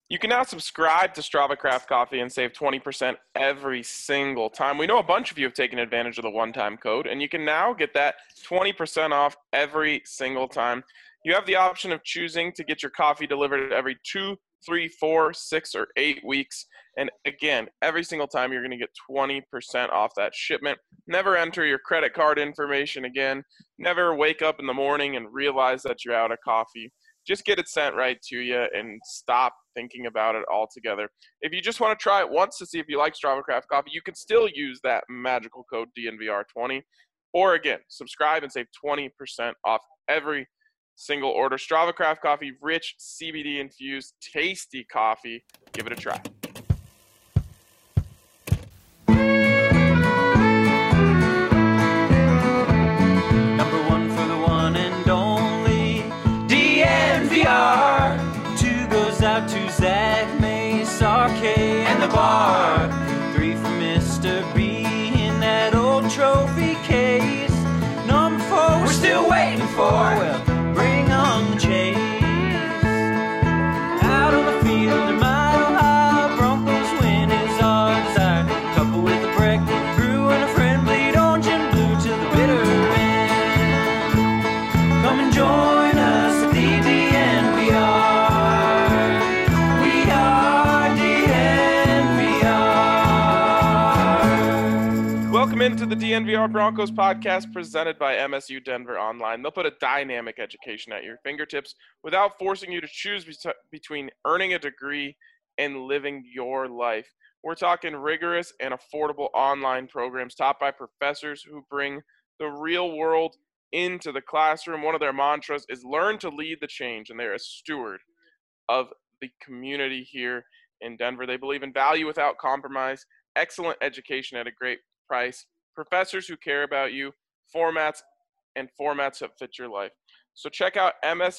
You can now subscribe to Strava Craft Coffee and save 20% every single time. We know a bunch of you have taken advantage of the one-time code, and you can now get that 20% off every single time. You have the option of choosing to get your coffee delivered every 2, 3, 4, 6, or 8 weeks. And again, every single time you're going to get 20% off that shipment. Never enter your credit card information again. Never wake up in the morning and realize that you're out of coffee. Just get it sent right to you and stop thinking about it altogether. If you just want to try it once to see if you like Strava Craft Coffee, you can still use that magical code DNVR20. Or again, subscribe and save 20% off every single order. Strava Craft Coffee, rich CBD infused, tasty coffee. Give it a try. Number one for the one and only DNVR. Two goes out to Zach, Mace, RK, and the bar. Three for Mr. B in that old trophy case. Number four, we're still waiting for. Well, bring on the chase. Out on the field in Mile High, Broncos win is our desire. Couple with a break, brew and a friend, bleed orange and blue to the bitter end. Come and join us at the DNVR. We are DNVR. Welcome into the DNVR Broncos podcast presented by MSU Denver Online. They'll put a dynamic education at your fingertips without forcing you to choose between earning a degree and living your life. We're talking rigorous and affordable online programs taught by professors who bring the real world into the classroom. One of their mantras is learn to lead the change, and they're a steward of the community here in Denver. They believe in value without compromise, excellent education at a great price, professors who care about you, formats that fit your life. So check out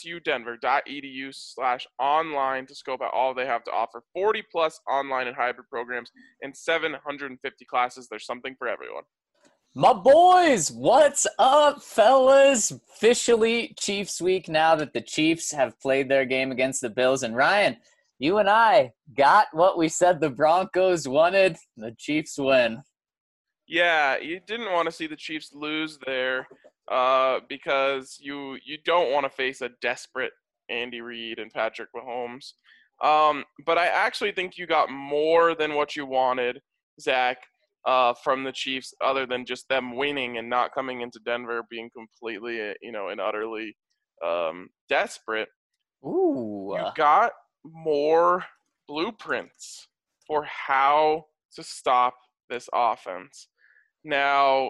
msudenver.edu/online to scope out all they have to offer. 40 plus online and hybrid programs and 750 classes. There's something for everyone. My boys, what's up, fellas? Officially Chiefs week now that the Chiefs have played their game against the Bills. And Ryan, you and I got what we said the Broncos wanted. The Chiefs win. Yeah, you didn't want to see the Chiefs lose there because you don't want to face a desperate Andy Reid and Patrick Mahomes. But I actually think you got more than what you wanted, Zach, from the Chiefs, other than just them winning and not coming into Denver being completely, and utterly desperate. Ooh. You got more blueprints for how to stop this offense. Now,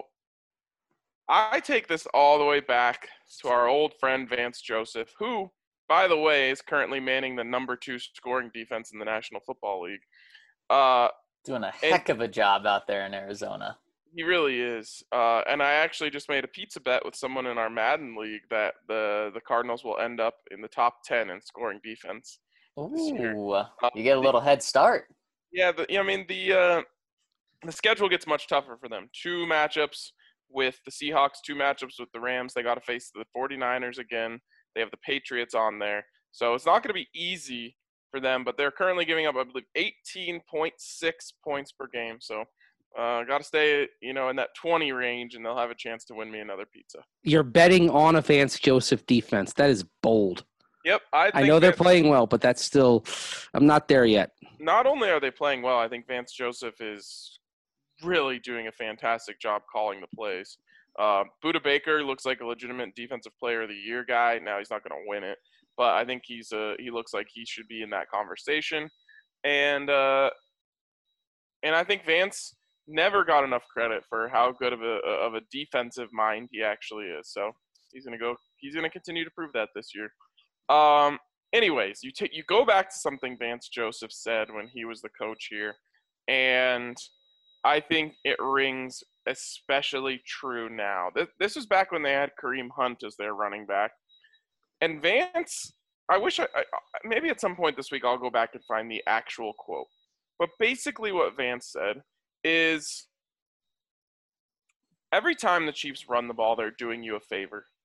I take this all the way back to our old friend Vance Joseph, who, by the way, is currently manning the number 2 scoring defense in the National Football League. Doing a heck of a job out there in Arizona. He really is. And I actually just made a pizza bet with someone in our Madden league that the Cardinals will end up in the top 10 in scoring defense this year. Ooh, you get a little head start. Yeah, the schedule gets much tougher for them. 2 matchups with the Seahawks, 2 matchups with the Rams. They got to face the 49ers again. They have the Patriots on there. So it's not going to be easy for them, but they're currently giving up, I believe, 18.6 points per game. So got to stay, in that 20 range, and they'll have a chance to win me another pizza. You're betting on a Vance Joseph defense. That is bold. Yep. I know they're playing well, but that's still – I'm not there yet. Not only are they playing well, I think Vance Joseph is really doing a fantastic job calling the plays. Budda Baker looks like a legitimate defensive player of the year guy. Now he's not going to win it, but I think he looks like he should be in that conversation. And I think Vance never got enough credit for how good of a defensive mind he actually is. So he's going to continue to prove that this year. Anyways, you go back to something Vance Joseph said when he was the coach here, and I think it rings especially true now. This was back when they had Kareem Hunt as their running back. And Vance, I wish maybe at some point this week I'll go back and find the actual quote. But basically what Vance said is, every time the Chiefs run the ball, they're doing you a favor.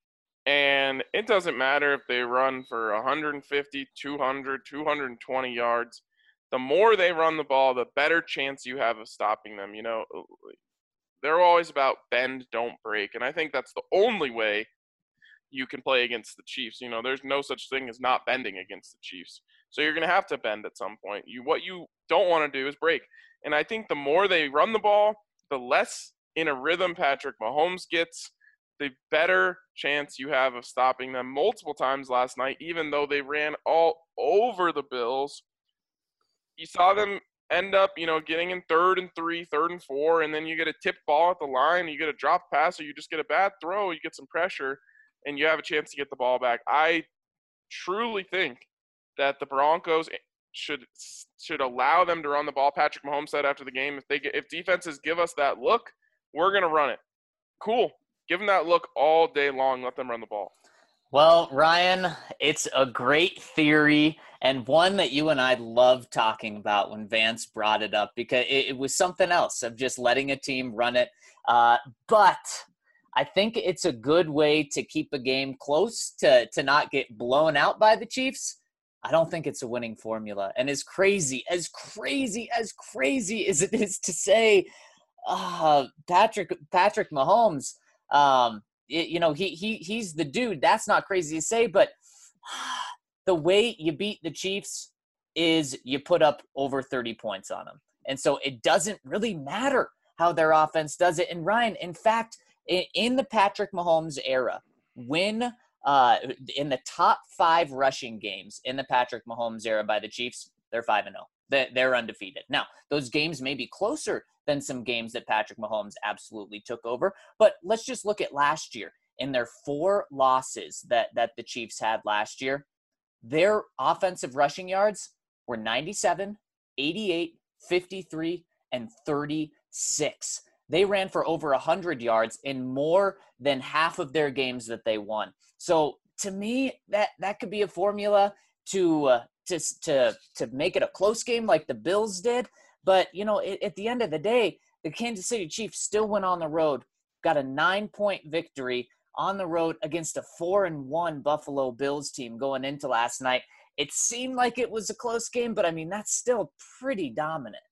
And it doesn't matter if they run for 150, 200, 220 yards. The more they run the ball, the better chance you have of stopping them. They're always about bend, don't break. And I think that's the only way you can play against the Chiefs. There's no such thing as not bending against the Chiefs. So you're going to have to bend at some point. What you don't want to do is break. And I think the more they run the ball, the less in a rhythm Patrick Mahomes gets, the better chance you have of stopping them. Multiple times last night, even though they ran all over the Bills, you saw them end up, getting in 3rd and 3, 3rd and 4, and then you get a tip ball at the line, you get a drop pass, or you just get a bad throw, you get some pressure, and you have a chance to get the ball back. I truly think that the Broncos should allow them to run the ball. Patrick Mahomes said after the game, if defenses give us that look, we're going to run it. Cool. Give them that look all day long. Let them run the ball. Well, Ryan, it's a great theory and one that you and I love talking about when Vance brought it up, because it was something else of just letting a team run it. But I think it's a good way to keep a game close, to not get blown out by the Chiefs. I don't think it's a winning formula. And as crazy as it is to say, Patrick Mahomes, he's the dude. That's not crazy to say, but the way you beat the Chiefs is you put up over 30 points on them. And so it doesn't really matter how their offense does it. And Ryan, in fact, in the Patrick Mahomes era, when in the top 5 rushing games in the Patrick Mahomes era by the Chiefs, they're 5-0. They're undefeated. Now, those games may be closer than some games that Patrick Mahomes absolutely took over. But let's just look at last year. In their 4 losses that the Chiefs had last year, their offensive rushing yards were 97, 88, 53, and 36. They ran for over 100 yards in more than half of their games that they won. So to me, that could be a formula to make it a close game like the Bills did. But, at the end of the day, the Kansas City Chiefs still went on the road, got a 9-point victory on the road against a 4-1 Buffalo Bills team going into last night. It seemed like it was a close game, but, that's still pretty dominant.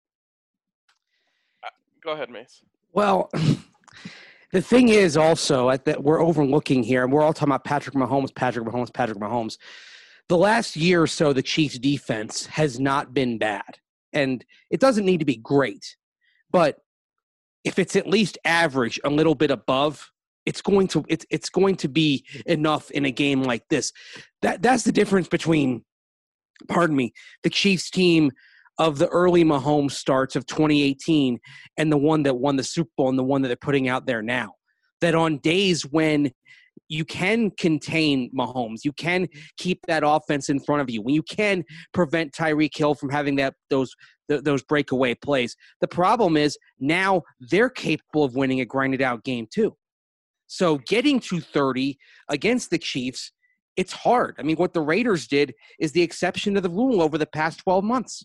Go ahead, Mace. Well, the thing is also that we're overlooking here, and we're all talking about Patrick Mahomes. The last year or so, the Chiefs' defense has not been bad. And it doesn't need to be great, but if it's at least average, a little bit above, it's going to be enough in a game like this. That's the difference between, the Chiefs team of the early Mahomes starts of 2018 and the one that won the Super Bowl and the one that they're putting out there now. That on days when you can contain Mahomes, you can keep that offense in front of you, when you can prevent Tyreek Hill from having those breakaway plays. The problem is now they're capable of winning a grinded-out game too. So getting to 30 against the Chiefs, it's hard. What the Raiders did is the exception to the rule over the past 12 months.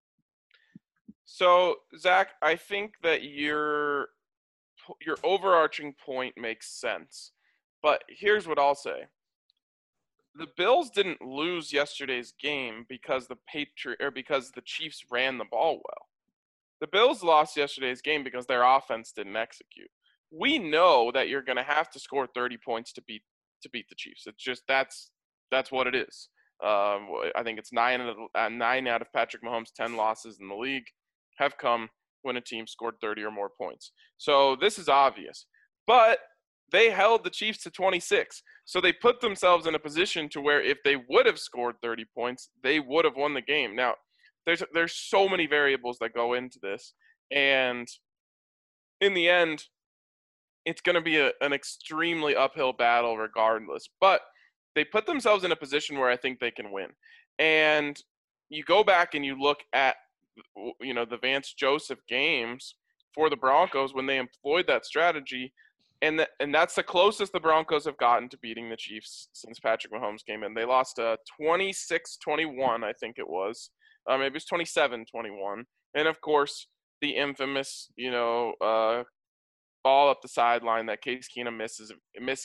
So, Zach, I think that your overarching point makes sense. But here's what I'll say. The Bills didn't lose yesterday's game because the Chiefs ran the ball well. The Bills lost yesterday's game because their offense didn't execute. We know that you're going to have to score 30 points to beat the Chiefs. It's just that's what it is. I think it's 9 out of Patrick Mahomes' 10 losses in the league have come when a team scored 30 or more points. So this is obvious. But they held the Chiefs to 26. So they put themselves in a position to where if they would have scored 30 points, they would have won the game. Now, there's so many variables that go into this. And in the end, it's going to be an extremely uphill battle regardless. But they put themselves in a position where I think they can win. And you go back and you look at, the Vance Joseph games for the Broncos when they employed that strategy. And that's the closest the Broncos have gotten to beating the Chiefs since Patrick Mahomes came in. They lost 26-21, I think it was. Maybe it was 27-21. And, of course, the infamous, ball up the sideline that Case Keenum misses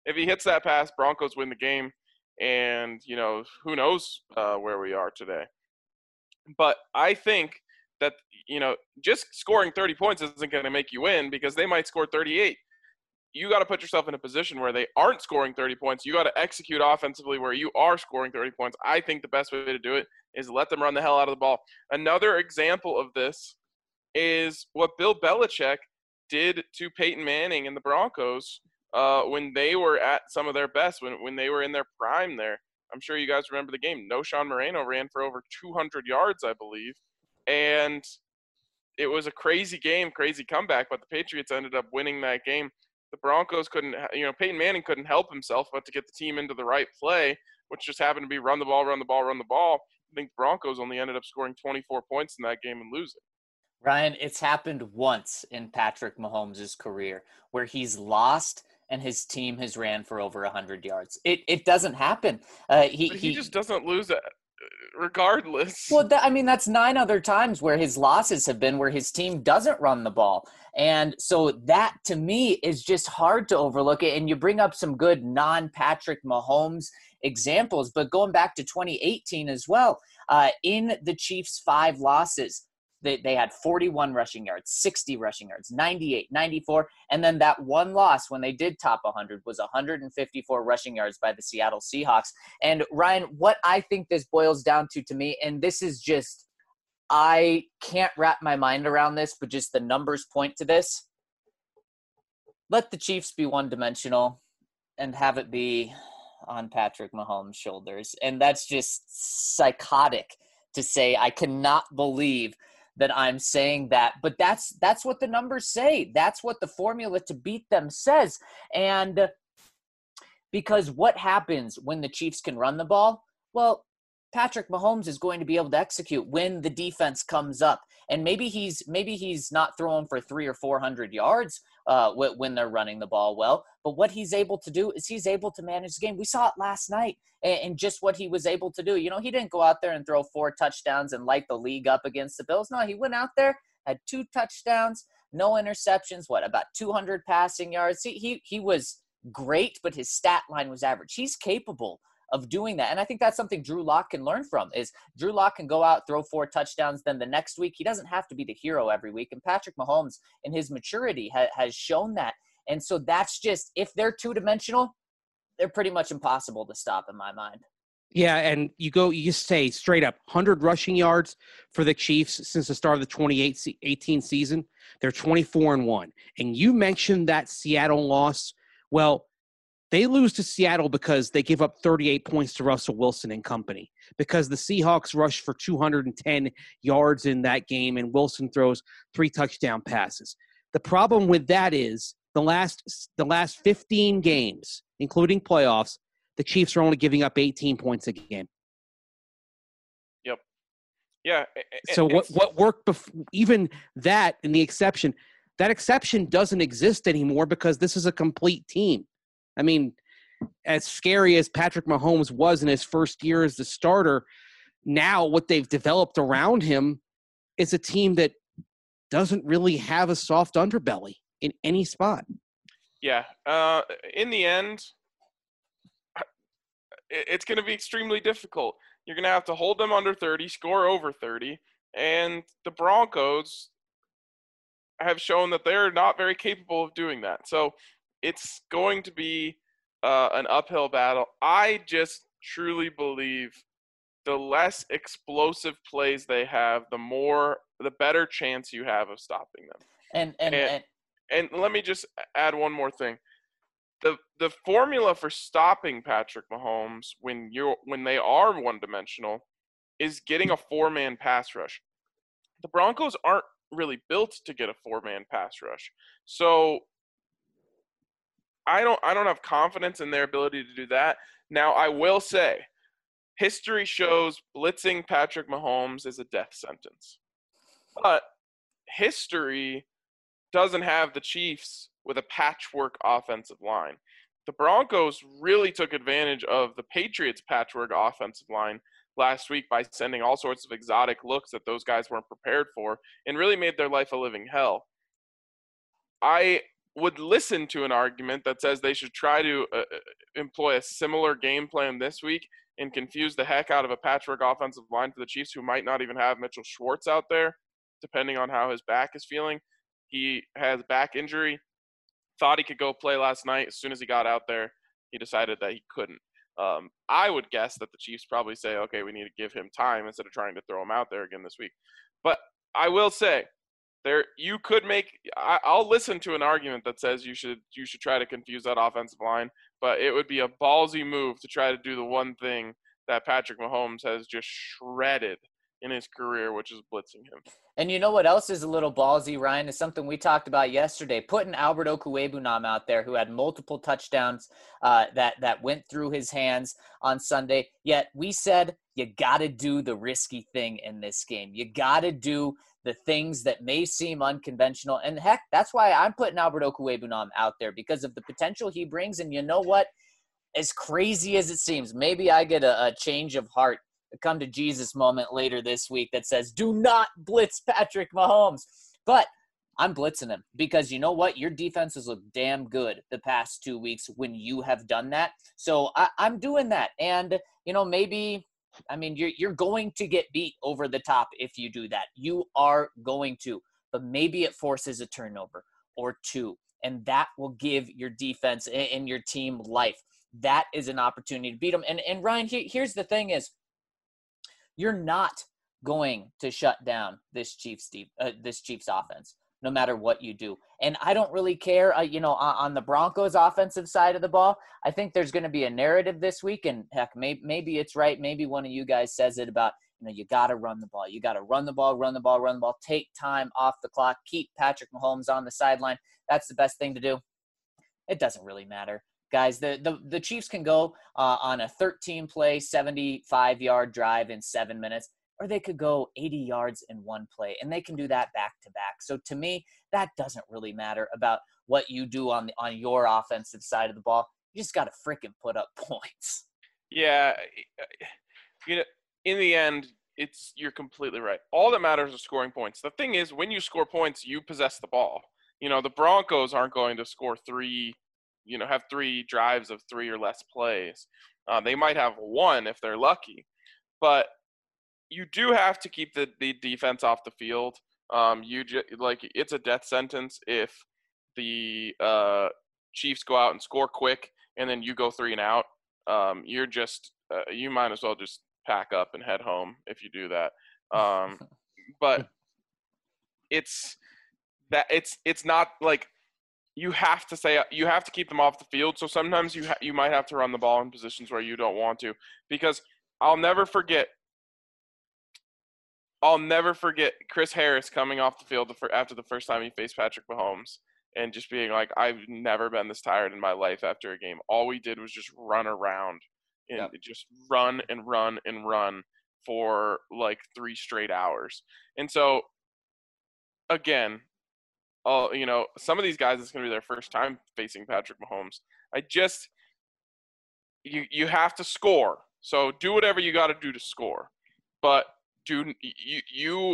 if he hits that pass, Broncos win the game, and who knows where we are today. But I think that just scoring 30 points isn't going to make you win, because they might score 38. You got to put yourself in a position where they aren't scoring 30 points. You got to execute offensively where you are scoring 30 points. I think the best way to do it is let them run the hell out of the ball. Another example of this is what Bill Belichick did to Peyton Manning and the Broncos when they were at some of their best, when they were in their prime there. I'm sure you guys remember the game. Knowshon Moreno ran for over 200 yards, I believe. And it was a crazy game, crazy comeback, but the Patriots ended up winning that game. The Broncos couldn't, Peyton Manning couldn't help himself but to get the team into the right play, which just happened to be run the ball, run the ball, run the ball. I think the Broncos only ended up scoring 24 points in that game and losing. Ryan, it's happened once in Patrick Mahomes' career where he's lost and his team has ran for over 100 yards. It doesn't happen. He just doesn't lose it regardless. Well, that's 9 other times where his losses have been where his team doesn't run the ball. And so that, to me, is just hard to overlook it. And you bring up some good non-Patrick Mahomes examples, but going back to 2018 as well, in the Chiefs' 5 losses, they had 41 rushing yards, 60 rushing yards, 98, 94, and then that one loss when they did top 100 was 154 rushing yards by the Seattle Seahawks. And Ryan, what I think this boils down to me, and this is just, I can't wrap my mind around this, but just the numbers point to this. Let the Chiefs be one-dimensional and have it be on Patrick Mahomes' shoulders. And that's just psychotic to say. I cannot believe that I'm saying that, but that's what the numbers say. That's what the formula to beat them says. And because what happens when the Chiefs can run the ball? Well, Patrick Mahomes is going to be able to execute when the defense comes up. And maybe he's not throwing for 300 or 400 yards when they're running the ball well. But what he's able to do is he's able to manage the game. We saw it last night and just what he was able to do. He didn't go out there and throw 4 touchdowns and light the league up against the Bills. No, he went out there, had 2 touchdowns, no interceptions, about 200 passing yards. He was great, but his stat line was average. He's capable of doing that. And I think that's something Drew Lock can learn from, is Drew Lock can go out, throw 4 touchdowns, then the next week he doesn't have to be the hero every week. And Patrick Mahomes in his maturity has shown that. And so that's just, if they're 2-dimensional, they're pretty much impossible to stop in my mind. Yeah, and you say straight up 100 rushing yards for the Chiefs since the start of the 2018 season. They're 24-1. And you mentioned that Seattle loss. Well, they lose to Seattle because they give up 38 points to Russell Wilson and company, because the Seahawks rushed for 210 yards in that game and Wilson throws 3 touchdown passes. The problem with that is the last 15 games, including playoffs, the Chiefs are only giving up 18 points a game. Yep. Yeah. So what worked before, even that in the exception, that exception doesn't exist anymore because this is a complete team. I mean, as scary as Patrick Mahomes was in his first year as the starter, now what they've developed around him is a team that doesn't really have a soft underbelly in any spot. Yeah. In the end, it's going to be extremely difficult. You're going to have to hold them under 30, score over 30, and the Broncos have shown that they're not very capable of doing that. So it's going to be an uphill battle. I just truly believe the less explosive plays they have, the better chance you have of stopping them. And let me just add one more thing. The formula for stopping Patrick Mahomes when they are one-dimensional is getting a 4-man pass rush. The Broncos aren't really built to get a 4-man pass rush. So I don't have confidence in their ability to do that. Now, I will say, history shows blitzing Patrick Mahomes is a death sentence. But history doesn't have the Chiefs with a patchwork offensive line. The Broncos really took advantage of the Patriots' patchwork offensive line last week by sending all sorts of exotic looks that those guys weren't prepared for and really made their life a living hell. I would listen to an argument that says they should try to employ a similar game plan this week and confuse the heck out of a patchwork offensive line for the Chiefs, who might not even have Mitchell Schwartz out there, depending on how his back is feeling. He has back injury. Thought he could go play last night. As soon as he got out there, he decided that he couldn't. I would guess that the Chiefs probably say, okay, we need to give him time instead of trying to throw him out there again this week. But I will say, you could make. I'll listen to an argument that says you should try to confuse that offensive line, but it would be a ballsy move to try to do the one thing that Patrick Mahomes has just shredded in his career, which is blitzing him. And you know what else is a little ballsy, Ryan, is something we talked about yesterday, putting Albert Okwuegbunam out there, who had multiple touchdowns that went through his hands on Sunday. Yet we said you got to do the risky thing in this game. You got to do the things that may seem unconventional. And heck, that's why I'm putting Albert Okwuegbunam out there, because of the potential he brings. And you know what? As crazy as it seems, maybe I get a change of heart, a come to Jesus moment later this week that says, do not blitz Patrick Mahomes. But I'm blitzing him, because you know what? Your defense has looked damn good the past 2 weeks when you have done that. So I'm doing that. And, you know, maybe – I mean, you're going to get beat over the top if you do that. You are going to. But maybe it forces a turnover or two, and that will give your defense and your team life. That is an opportunity to beat them. And Ryan, here's the thing is, you're not going to shut down this Chiefs offense, no matter what you do. And I don't really care, on the Broncos offensive side of the ball, I think there's going to be a narrative this week, and heck, maybe it's right. Maybe one of you guys says it about, you got to run the ball. You got to run the ball, take time off the clock, keep Patrick Mahomes on the sideline. That's the best thing to do. It doesn't really matter. Guys, the Chiefs can go on a 13-play, 75-yard drive in 7 minutes, or they could go 80 yards in one play, and they can do that back-to-back. So to me, that doesn't really matter about what you do on your offensive side of the ball. You just got to freaking put up points. Yeah, in the end, you're completely right. All that matters is scoring points. The thing is, when you score points, you possess the ball. The Broncos aren't going to score have 3 drives of 3 or less plays. They might have 1 if they're lucky, but you do have to keep the defense off the field. It's a death sentence if the Chiefs go out and score quick and then you go 3 and out. You might as well just pack up and head home if you do that. But it's not like you have to keep them off the field. So sometimes you might have to run the ball in positions where you don't want to, because I'll never forget Chris Harris coming off the field after the first time he faced Patrick Mahomes and just being like, I've never been this tired in my life after a game. All we did was just run around and just run and run and run for like 3 straight hours. And so, again, some of these guys, it's going to be their first time facing Patrick Mahomes. You have to score. So do whatever you got to do to score. But you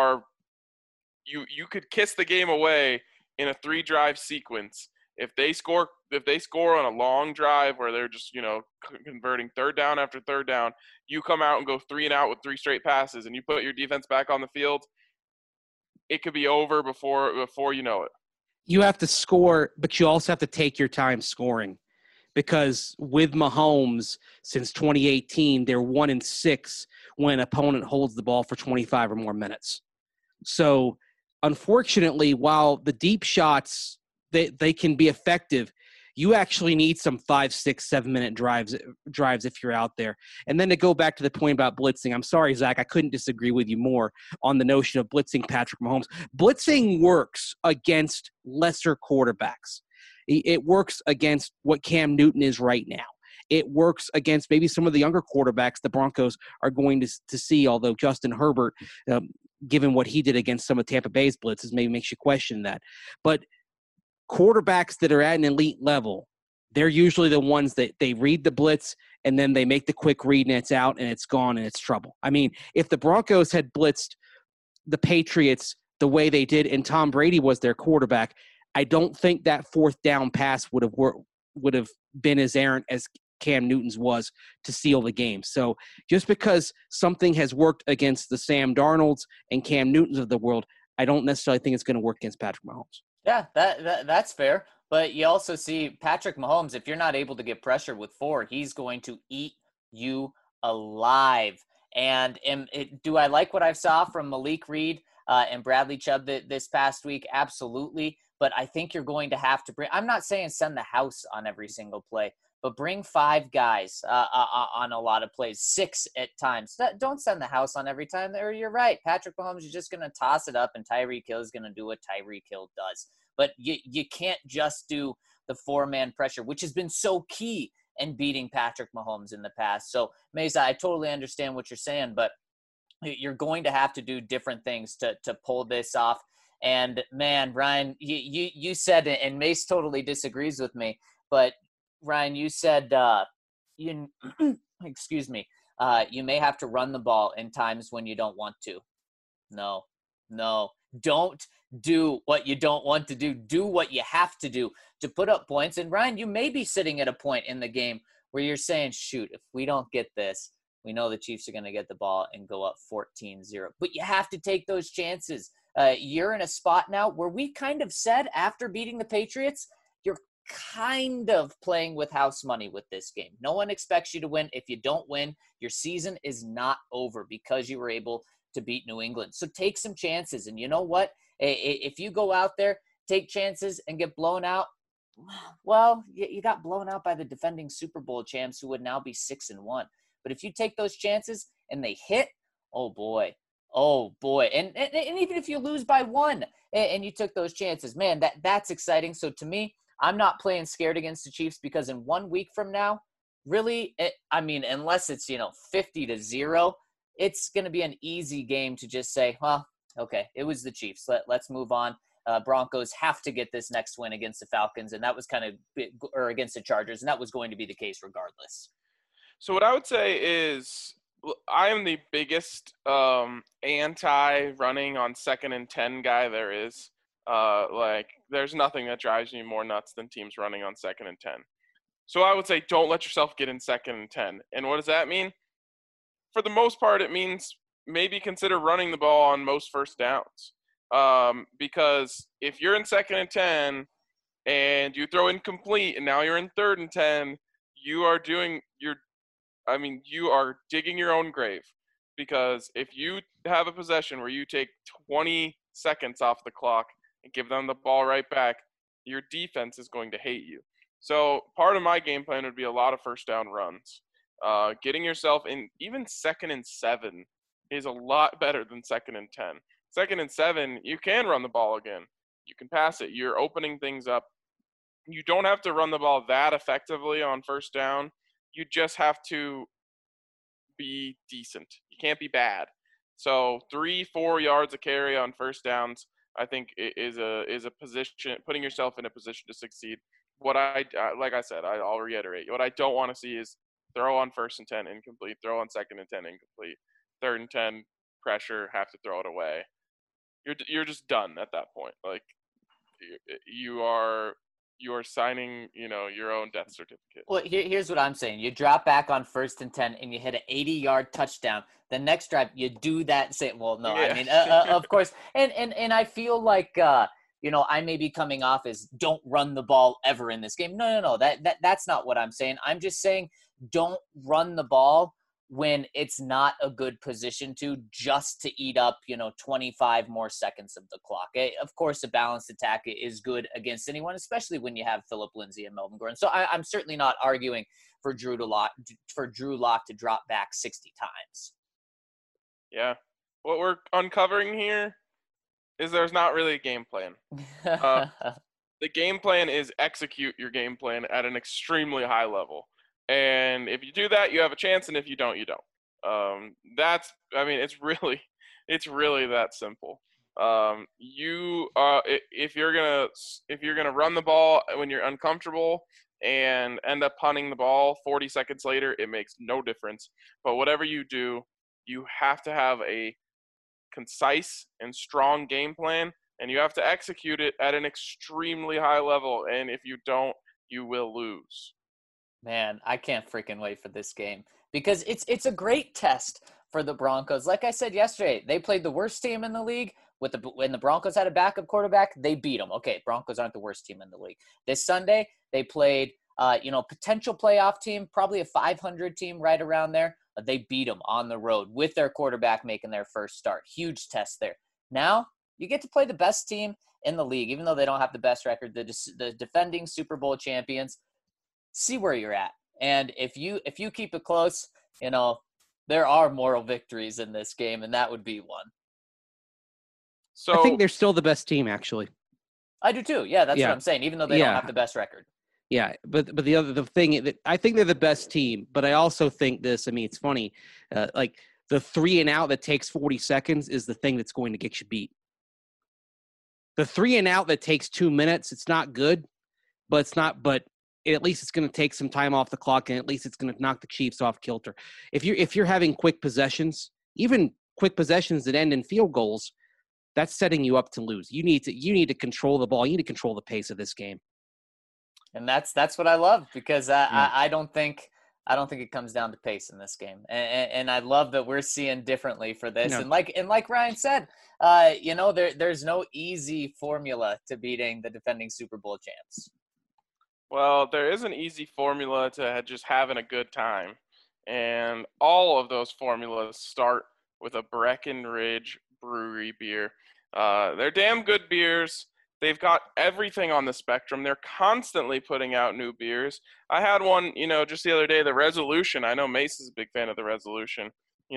could kiss the game away in a 3-drive sequence if they score on a long drive where they're just converting third down after third down. You come out and go 3 and out with 3 straight passes, and you put your defense back on the field. It could be over before you know it. You have to score, but you also have to take your time scoring, because with Mahomes since 2018, they're 1-6 when an opponent holds the ball for 25 or more minutes. So, unfortunately, while the deep shots they can be effective, you actually need some 5, 6, 7-minute drives if you're out there. And then to go back to the point about blitzing, I'm sorry, Zach, I couldn't disagree with you more on the notion of blitzing Patrick Mahomes. Blitzing works against lesser quarterbacks. It works against what Cam Newton is right now. It works against maybe some of the younger quarterbacks the Broncos are going to see, although Justin Herbert, given what he did against some of Tampa Bay's blitzes, maybe makes you question that. But quarterbacks that are at an elite level, they're usually the ones that they read the blitz and then they make the quick read and it's out and it's gone and it's trouble. I mean, if the Broncos had blitzed the Patriots the way they did and Tom Brady was their quarterback, I don't think that fourth down pass would have been as errant as Cam Newton's was to seal the game. So just because something has worked against the Sam Darnolds and Cam Newtons of the world, I don't necessarily think it's going to work against Patrick Mahomes. Yeah, that's fair. But you also see Patrick Mahomes, if you're not able to get pressure with 4, he's going to eat you alive. And do I like what I saw from Malik Reed and Bradley Chubb this past week? Absolutely. But I think you're going to have to bring – I'm not saying send the house on every single play, but bring 5 guys on a lot of plays, 6 at times. Don't send the house on every time. Or you're right. Patrick Mahomes is just going to toss it up, and Tyreek Hill is going to do what Tyreek Hill does. But you can't just do the 4-man pressure, which has been so key in beating Patrick Mahomes in the past. So, Mesa, I totally understand what you're saying, but you're going to have to do different things to pull this off. And, man, Ryan, you said, and Mace totally disagrees with me, but, Ryan, you said excuse me, you may have to run the ball in times when you don't want to. No. Don't do what you don't want to do. Do what you have to do to put up points. And, Ryan, you may be sitting at a point in the game where you're saying, shoot, if we don't get this, we know the Chiefs are going to get the ball and go up 14-0. But you have to take those chances. You're in a spot now where we kind of said after beating the Patriots, you're kind of playing with house money with this game. No one expects you to win. If you don't win, your season is not over because you were able to beat New England. So take some chances. And you know what? If you go out there, take chances and get blown out, well, you got blown out by the defending Super Bowl champs who would now be 6-1. But if you take those chances and they hit, oh boy. And even if you lose by 1 and you took those chances, man, that's exciting. So to me, I'm not playing scared against the Chiefs because in 1 week from now, really, unless it's, 50-0, it's going to be an easy game to just say, well, okay, it was the Chiefs. Let's move on. Broncos have to get this next win against the Falcons, and that was or against the Chargers, and that was going to be the case regardless. So what I would say is I am the biggest anti-running on 2nd and 10 guy there is. There's nothing that drives me more nuts than teams running on 2nd and 10. So I would say don't let yourself get in 2nd and 10. And what does that mean? For the most part, it means maybe consider running the ball on most first downs. Because if you're in 2nd and 10 and you throw incomplete and now you're in 3rd and 10, you are digging your own grave. Because if you have a possession where you take 20 seconds off the clock and give them the ball right back, your defense is going to hate you. So part of my game plan would be a lot of first down runs. Getting yourself in even 2nd and 7 is a lot better than 2nd and 10. 2nd and 7, you can run the ball again. You can pass it. You're opening things up. You don't have to run the ball that effectively on first down. You just have to be decent. You can't be bad. So 3-4 yards a carry on first downs, I think is a position, putting yourself in a position to succeed. What like I said, I'll reiterate. What I don't want to see is throw on 1st and 10 incomplete, throw on 2nd and 10 incomplete, 3rd and 10 pressure, have to throw it away. You're just done at that point. Like you are signing, your own death certificate. Well, here's what I'm saying. You drop back on 1st and 10 and you hit an 80-yard touchdown. The next drive, you do that. Of course. And I feel like, I may be coming off as don't run the ball ever in this game. No. That's not what I'm saying. I'm just saying don't run the ball when it's not a good position just to eat up, 25 more seconds of the clock. Of course, a balanced attack is good against anyone, especially when you have Phillip Lindsay and Melvin Gordon. So I'm certainly not arguing for Drew Lock to drop back 60 times. Yeah. What we're uncovering here is there's not really a game plan. The game plan is execute your game plan at an extremely high level. And if you do that, you have a chance, and if you don't, you don't. It's really that simple. If you're gonna run the ball when you're uncomfortable and end up punting the ball 40 seconds later, it makes no difference. But whatever you do, you have to have a concise and strong game plan and you have to execute it at an extremely high level. And if you don't, you will lose. Man, I can't freaking wait for this game because it's a great test for the Broncos. Like I said yesterday, they played the worst team in the league. When the Broncos had a backup quarterback, they beat them. Okay, Broncos aren't the worst team in the league. This Sunday, they played, potential playoff team, probably a 500 team right around there. They beat them on the road with their quarterback making their first start. Huge test there. Now, you get to play the best team in the league, even though they don't have the best record, the defending Super Bowl champions. See where you're at. And if you keep it close, there are moral victories in this game, and that would be one. So I think they're still the best team, actually. I do too. Yeah, that's what I'm saying, even though they don't have the best record. Yeah, but the thing that I think they're the best team, but I also think this. I mean, it's funny, like the 3 and out that takes 40 seconds is the thing that's going to get you beat. The 3 and out that takes 2 minutes, it's not good, but it's not. But at least it's going to take some time off the clock, and at least it's going to knock the Chiefs off kilter. If you're having quick possessions, even quick possessions that end in field goals, that's setting you up to lose. You need to control the ball. You need to control the pace of this game. And that's what I love because I don't think it comes down to pace in this game. And I love that we're seeing differently for this. No. And like Ryan said, there's no easy formula to beating the defending Super Bowl champs. Well, there is an easy formula to just having a good time. And all of those formulas start with a Breckenridge Brewery beer. They're damn good beers. They've got everything on the spectrum. They're constantly putting out new beers. I had one, just the other day, the Resolution. I know Mace is a big fan of the Resolution.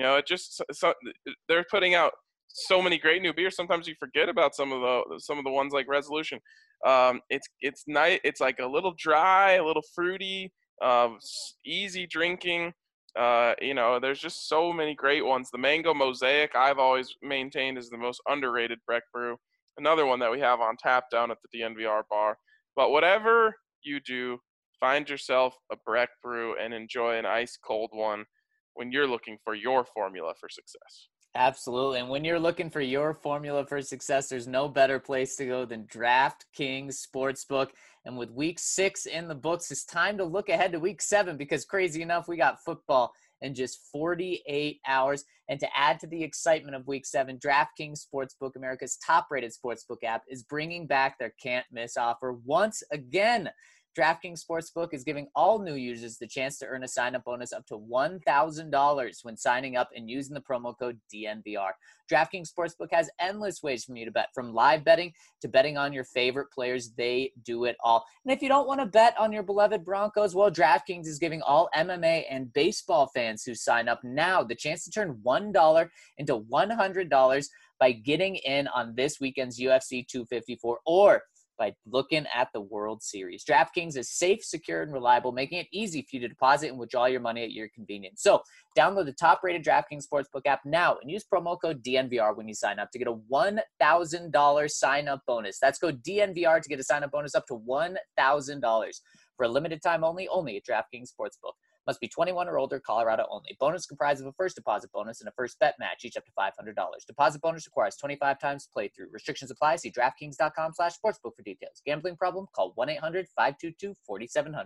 They're putting out so many great new beers. Sometimes you forget about some of the ones like Resolution. It's nice. It's like a little dry, a little fruity, easy drinking. There's just so many great ones. The Mango Mosaic, I've always maintained, is the most underrated Breck brew. Another one that we have on tap down at the DNVR bar. But whatever you do, find yourself a Breck brew and enjoy an ice cold one when you're looking for your formula for success. Absolutely. And when you're looking for your formula for success, there's no better place to go than DraftKings Sportsbook. And with week 6 in the books, it's time to look ahead to week 7 because crazy enough, we got football in just 48 hours. And to add to the excitement of week 7, DraftKings Sportsbook, America's top-rated sportsbook app, is bringing back their can't-miss offer once again. DraftKings Sportsbook is giving all new users the chance to earn a sign-up bonus up to $1,000 when signing up and using the promo code DNVR. DraftKings Sportsbook has endless ways for you to bet, from live betting to betting on your favorite players. They do it all. And if you don't want to bet on your beloved Broncos, well, DraftKings is giving all MMA and baseball fans who sign up now the chance to turn $1 into $100 by getting in on this weekend's UFC 254 or by looking at the World Series. DraftKings is safe, secure, and reliable, making it easy for you to deposit and withdraw your money at your convenience. So download the top-rated DraftKings Sportsbook app now and use promo code DNVR when you sign up to get a $1,000 sign-up bonus. That's code DNVR to get a sign-up bonus up to $1,000 for a limited time only at DraftKings Sportsbook. Must be 21 or older, Colorado only. Bonus comprised of a first deposit bonus and a first bet match, each up to $500. Deposit bonus requires 25 times playthrough. Restrictions apply. See DraftKings.com/sportsbook for details. Gambling problem? Call 1-800-522-4700.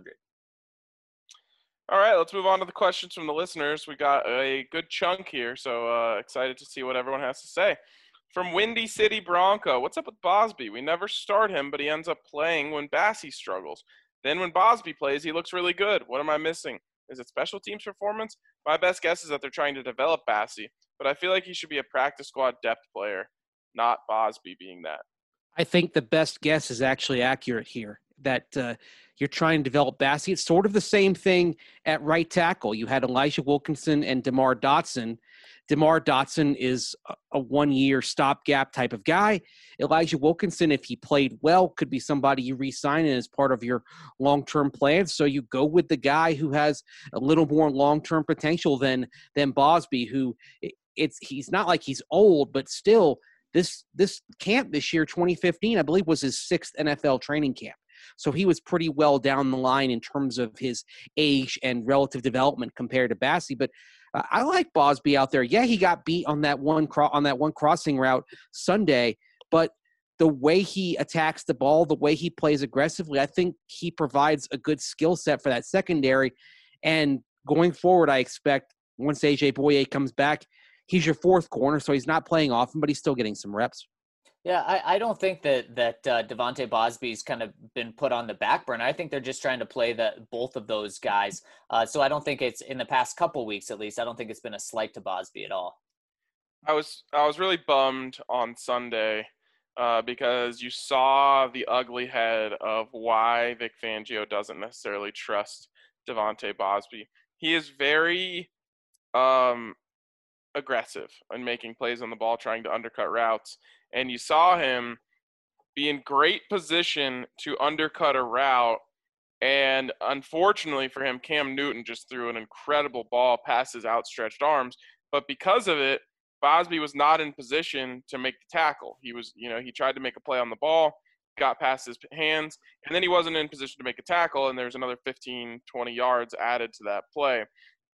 All right, let's move on to the questions from the listeners. We got a good chunk here, so excited to see what everyone has to say. From Windy City Bronco, what's up with Bosby? We never start him, but he ends up playing when Bassey struggles. Then when Bosby plays, he looks really good. What am I missing? Is it special teams performance? My best guess is that they're trying to develop Bassey, but I feel like he should be a practice squad depth player, not Bosby being that. I think the best guess is actually accurate here, that you're trying to develop Bassey. It's sort of the same thing at right tackle. You had Elijah Wilkinson and DeMar Dotson. DeMar Dotson is a one-year stopgap type of guy. Elijah Wilkinson, if he played well, could be somebody you re-sign as part of your long-term plans. So you go with the guy who has a little more long-term potential than Bosby, who he's not like he's old, but still this camp this year, 2015, I believe, was his 6th NFL training camp. So he was pretty well down the line in terms of his age and relative development compared to Bassey. But I like Bosby out there. Yeah, he got beat on that one crossing route Sunday, but the way he attacks the ball, the way he plays aggressively, I think he provides a good skill set for that secondary. And going forward, I expect once A.J. Boye comes back, he's your fourth corner, so he's not playing often, but he's still getting some reps. Yeah, I don't think that Devontae Bosby's kind of been put on the back burner. I think they're just trying to play both of those guys. So I don't think it's, in the past couple weeks at least, I don't think it's been a slight to Bosby at all. I was really bummed on Sunday because you saw the ugly head of why Vic Fangio doesn't necessarily trust Devontae Bosby. He is very aggressive in making plays on the ball, trying to undercut routes. And you saw him be in great position to undercut a route. And unfortunately for him, Cam Newton just threw an incredible ball past his outstretched arms. But because of it, Bosby was not in position to make the tackle. He was, he tried to make a play on the ball, got past his hands, and then he wasn't in position to make a tackle, and there's another 15, 20 yards added to that play.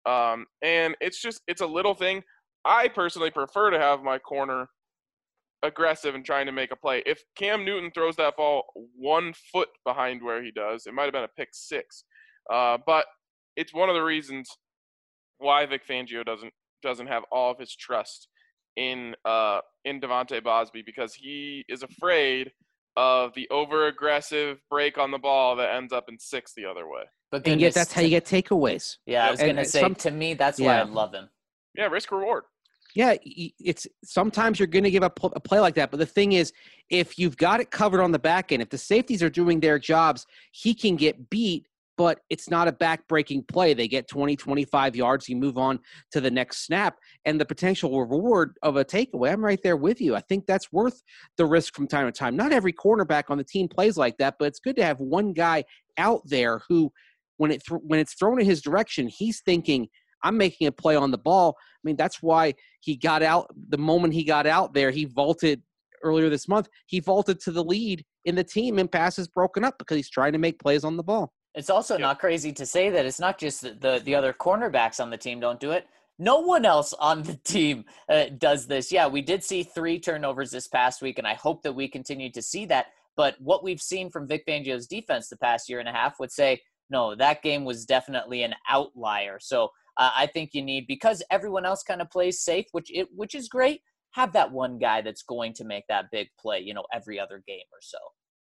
And it's a little thing. I personally prefer to have my corner aggressive and trying to make a play. If Cam Newton throws that ball 1 foot behind where he does, it might have been a pick six. But it's one of the reasons why Vic Fangio doesn't have all of his trust in Devontae Bosby, because he is afraid of the over-aggressive break on the ball that ends up in six the other way. But and yet that's how you get takeaways. Yeah, I was going to say, to me, that's why I love him. Yeah, risk reward. Yeah, it's sometimes you're going to give up a play like that. But the thing is, if you've got it covered on the back end, if the safeties are doing their jobs, he can get beat, but it's not a back-breaking play. They get 20, 25 yards. You move on to the next snap, and the potential reward of a takeaway, I'm right there with you. I think that's worth the risk from time to time. Not every cornerback on the team plays like that, but it's good to have one guy out there who, when it's thrown in his direction, he's thinking, I'm making a play on the ball. I mean, that's why he got out. The moment he got out there, he vaulted earlier this month. He vaulted to the lead in the team in passes broken up because he's trying to make plays on the ball. It's also not crazy to say that it's not just the other cornerbacks on the team don't do it. No one else on the team does this. Yeah, we did see 3 turnovers this past week, and I hope that we continue to see that. But what we've seen from Vic Fangio's defense the past year and a half would say, no, that game was definitely an outlier. So I think you need, because everyone else kind of plays safe, which is great, have that one guy that's going to make that big play, every other game or so.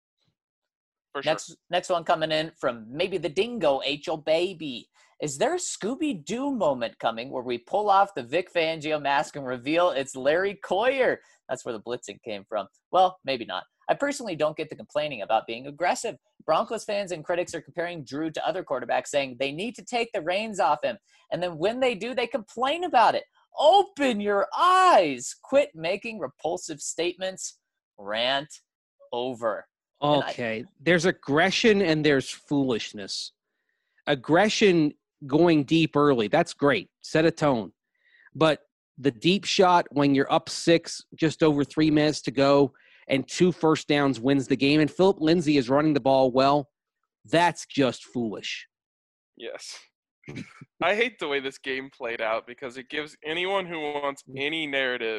For sure. Next one coming in from maybe the Dingo, H.O. Baby. Is there a Scooby-Doo moment coming where we pull off the Vic Fangio mask and reveal it's Larry Coyer? That's where the blitzing came from. Well, maybe not. I personally don't get the complaining about being aggressive. Broncos fans and critics are comparing Drew to other quarterbacks, saying they need to take the reins off him. And then when they do, they complain about it. Open your eyes. Quit making repulsive statements. Rant over. Okay. There's aggression and there's foolishness. Aggression going deep early, that's great. Set a tone. But the deep shot when you're up 6, just over 3 minutes to go, and 2 first downs wins the game, and Philip Lindsay is running the ball well, that's just foolish. Yes. I hate the way this game played out because it gives anyone who wants any narrative,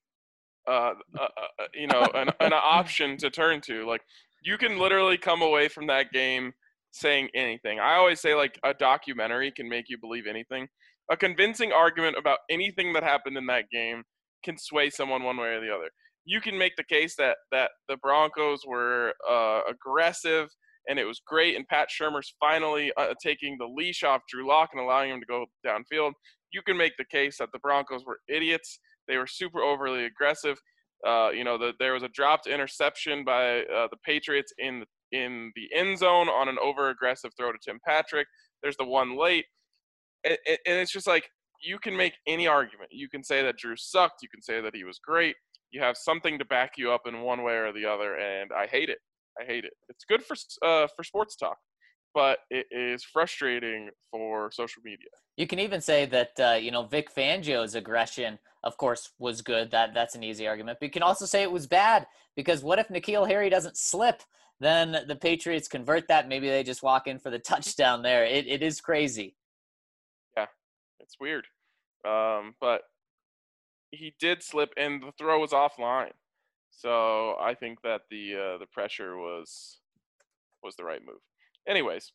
an option to turn to. Like, you can literally come away from that game saying anything. I always say, like, a documentary can make you believe anything. A convincing argument about anything that happened in that game can sway someone one way or the other. You can make the case that the Broncos were aggressive and it was great, and Pat Shurmur's finally taking the leash off Drew Lock and allowing him to go downfield. You can make the case that the Broncos were idiots. They were super overly aggressive. There was a dropped interception by the Patriots in the end zone on an over-aggressive throw to Tim Patrick. There's the one late. And it's just like, you can make any argument. You can say that Drew sucked. You can say that he was great. You have something to back you up in one way or the other, and I hate it. It's good for sports talk, but it is frustrating for social media. You can even say that Vic Fangio's aggression, of course, was good. That's an easy argument. But you can also say it was bad, because what if N'Keal Harry doesn't slip? Then the Patriots convert that. Maybe they just walk in for the touchdown there. It is crazy. Yeah, it's weird. But he did slip, and the throw was offline. So I think that the pressure was the right move. Anyways,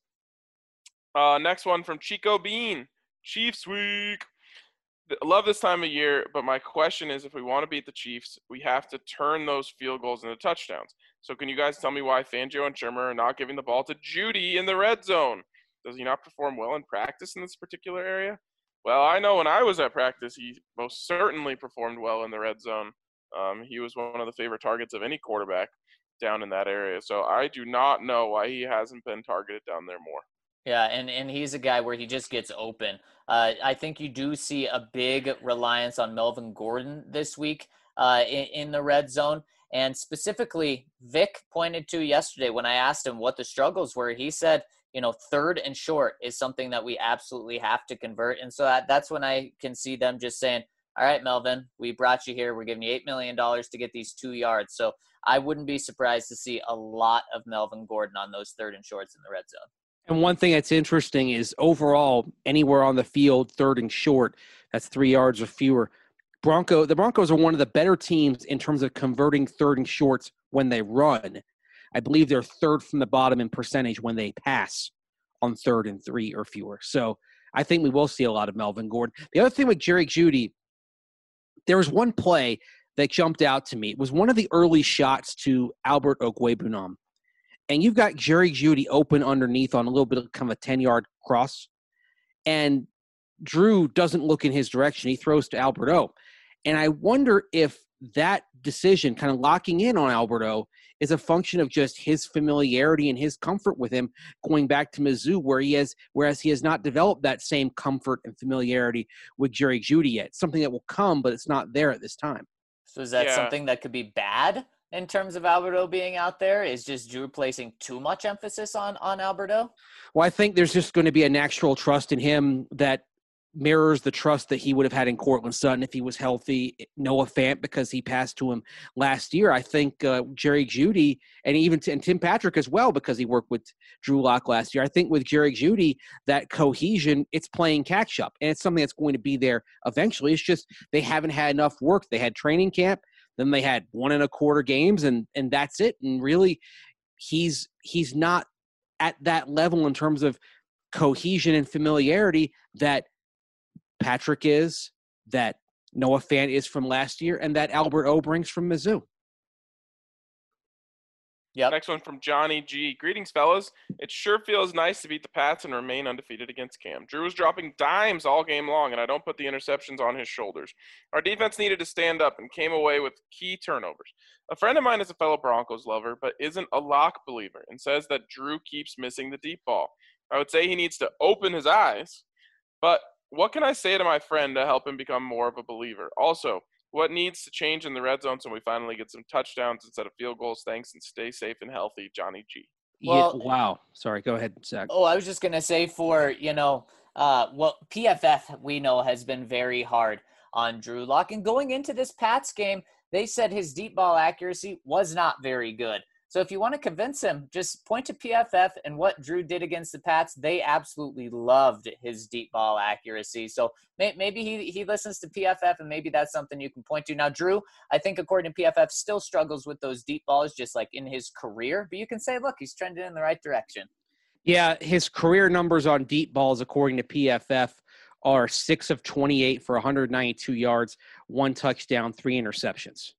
next one from Chico Bean. Chiefs week. Love this time of year, but my question is, if we want to beat the Chiefs, we have to turn those field goals into touchdowns. So can you guys tell me why Fangio and Shermer are not giving the ball to Judy in the red zone? Does he not perform well in practice in this particular area? Well, I know when I was at practice, he most certainly performed well in the red zone. He was one of the favorite targets of any quarterback down in that area. So I do not know why he hasn't been targeted down there more. Yeah, and he's a guy where he just gets open. I think you do see a big reliance on Melvin Gordon this week in the red zone. And specifically, Vic pointed to yesterday when I asked him what the struggles were, he said, 3rd and short is something that we absolutely have to convert. And so that's when I can see them just saying, all right, Melvin, we brought you here. We're giving you $8 million to get these 2 yards. So I wouldn't be surprised to see a lot of Melvin Gordon on those 3rd and shorts in the red zone. And one thing that's interesting is overall, anywhere on the field, 3rd and short, that's 3 yards or fewer. The Broncos are one of the better teams in terms of converting 3rd and shorts when they run. I believe they're 3rd from the bottom in percentage when they pass on 3rd and 3 or fewer. So I think we will see a lot of Melvin Gordon. The other thing with Jerry Jeudy, there was one play that jumped out to me. It was one of the early shots to Albert Okwuegbunam. And you've got Jerry Jeudy open underneath on a little bit of kind of a 10-yard cross. And Drew doesn't look in his direction. He throws to Albert O. And I wonder if that decision, kind of locking in on Albert O, is a function of just his familiarity and his comfort with him going back to Mizzou, whereas he has not developed that same comfort and familiarity with Jerry Jeudy yet. Something that will come, but it's not there at this time. So is that something that could be bad in terms of Alberto being out there? Is just Drew placing too much emphasis on Alberto? Well, I think there's just going to be a natural trust in him that mirrors the trust that he would have had in Cortland Sutton if he was healthy. Noah Fant, because he passed to him last year. I think Jerry Jeudy and Tim Patrick as well, because he worked with Drew Lock last year. I think with Jerry Jeudy, that cohesion, it's playing catch up, and it's something that's going to be there eventually. It's just they haven't had enough work. They had training camp, then they had 1.25 games, and that's it. And really, he's not at that level in terms of cohesion and familiarity that Patrick is, that Noah Fant is from last year, and that Albert O brings from Mizzou. Yep. Next one from Johnny G. Greetings, fellas. It sure feels nice to beat the Pats and remain undefeated against Cam. Drew was dropping dimes all game long, and I don't put the interceptions on his shoulders. Our defense needed to stand up and came away with key turnovers. A friend of mine is a fellow Broncos lover, but isn't a lock believer, and says that Drew keeps missing the deep ball. I would say he needs to open his eyes, but what can I say to my friend to help him become more of a believer? Also, what needs to change in the red zone so we finally get some touchdowns instead of field goals? Thanks, and stay safe and healthy, Johnny G. Well, wow. Sorry, go ahead, Zach. Oh, I was just going to say PFF, we know, has been very hard on Drew Lock. And going into this Pats game, they said his deep ball accuracy was not very good. So if you want to convince him, just point to PFF and what Drew did against the Pats. They absolutely loved his deep ball accuracy. So maybe he listens to PFF, and maybe that's something you can point to. Now, Drew, I think according to PFF, still struggles with those deep balls just like in his career. But you can say, look, he's trending in the right direction. Yeah, his career numbers on deep balls, according to PFF, are 6 of 28 for 192 yards, 1 touchdown, 3 interceptions.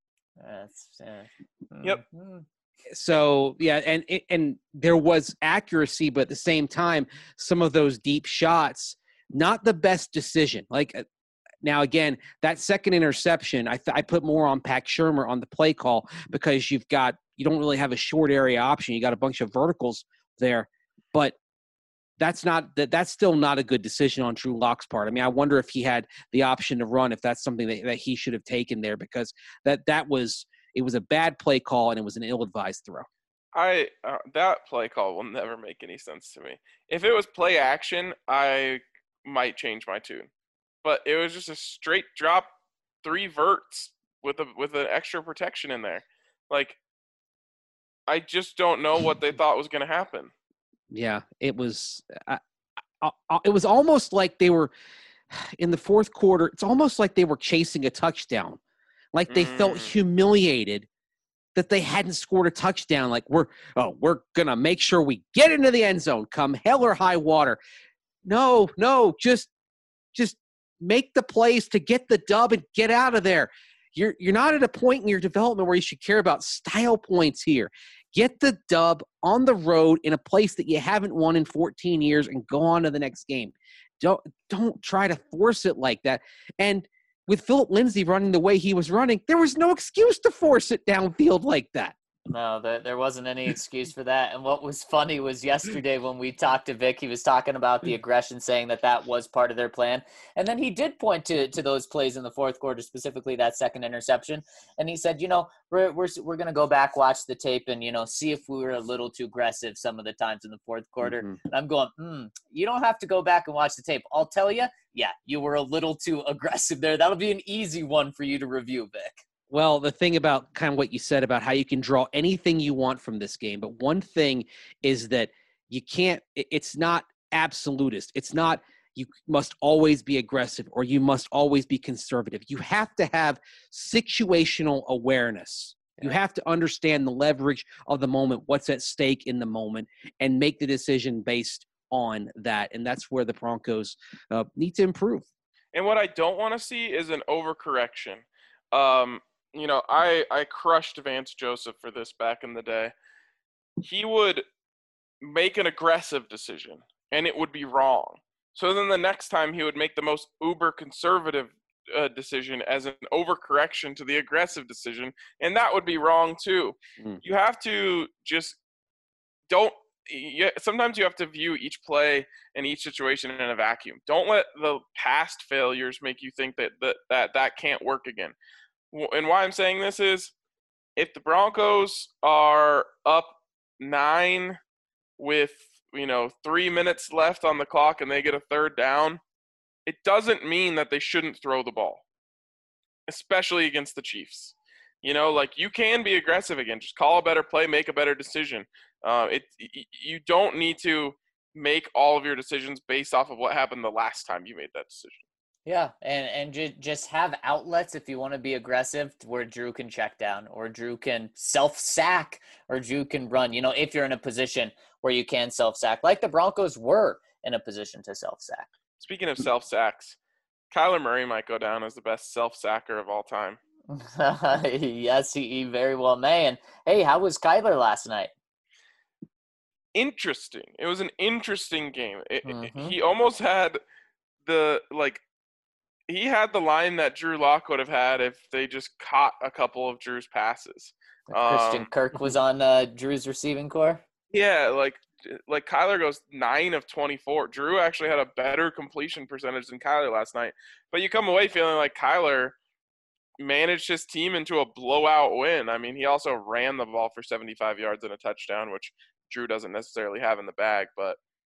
Yep. So, yeah, and there was accuracy, but at the same time, some of those deep shots, not the best decision. Like, now, again, that second interception, I put more on Pat Shermer on the play call because you don't really have a short area option. You got a bunch of verticals there, but that's still not a good decision on Drew Lock's part. I mean, I wonder if he had the option to run, if that's something that he should have taken there, because it was a bad play call and it was an ill-advised throw. That play call will never make any sense to me. If it was play action, I might change my tune, but it was just a straight drop, 3 verts with an extra protection in there. Like, I just don't know what they thought was going to happen. Yeah, it was almost like they were in the fourth quarter. It's almost like they were chasing a touchdown. Like they felt humiliated that they hadn't scored a touchdown. Like we're gonna make sure we get into the end zone, come hell or high water. No, just make the plays to get the dub and get out of there. You're not at a point in your development where you should care about style points here. Get the dub on the road in a place that you haven't won in 14 years and go on to the next game. Don't try to force it like that. And with Philip Lindsay running the way he was running, there was no excuse to force it downfield like that. No, there wasn't any excuse for that. And what was funny was yesterday when we talked to Vic, he was talking about the aggression, saying that was part of their plan. And then he did point to those plays in the fourth quarter, specifically that second interception. And he said, we're going to go back, watch the tape, and, see if we were a little too aggressive some of the times in the fourth quarter. Mm-hmm. And I'm going, you don't have to go back and watch the tape. I'll tell you, yeah, you were a little too aggressive there. That'll be an easy one for you to review, Vic. Well, the thing about kind of what you said about how you can draw anything you want from this game, but one thing is that you can't – it's not absolutist. It's not you must always be aggressive or you must always be conservative. You have to have situational awareness. You have to understand the leverage of the moment, what's at stake in the moment, and make the decision based on that. And that's where the Broncos need to improve. And what I don't want to see is an overcorrection. I crushed Vance Joseph for this back in the day. He would make an aggressive decision, and it would be wrong. So then the next time he would make the most uber conservative decision as an overcorrection to the aggressive decision, and that would be wrong too. You have to just sometimes you have to view each play and each situation in a vacuum. Don't let the past failures make you think that can't work again. And why I'm saying this is, if the Broncos are up 9 with 3 minutes left on the clock and they get a third down, it doesn't mean that they shouldn't throw the ball, especially against the Chiefs. You can be aggressive again. Just call a better play, make a better decision. You don't need to make all of your decisions based off of what happened the last time you made that decision. Yeah, and just have outlets if you want to be aggressive, where Drew can check down, or Drew can self-sack, or Drew can run, if you're in a position where you can self-sack, like the Broncos were in a position to self-sack. Speaking of self-sacks, Kyler Murray might go down as the best self-sacker of all time. Yes, he very well may. And, hey, how was Kyler last night? Interesting. It was an interesting game. He almost had he had the line that Drew Lock would have had if they just caught a couple of Drew's passes. Christian Kirk was on Drew's receiving core? Yeah, like Kyler goes 9 of 24. Drew actually had a better completion percentage than Kyler last night. But you come away feeling like Kyler managed his team into a blowout win. I mean, he also ran the ball for 75 yards and a touchdown, which Drew doesn't necessarily have in the bag, but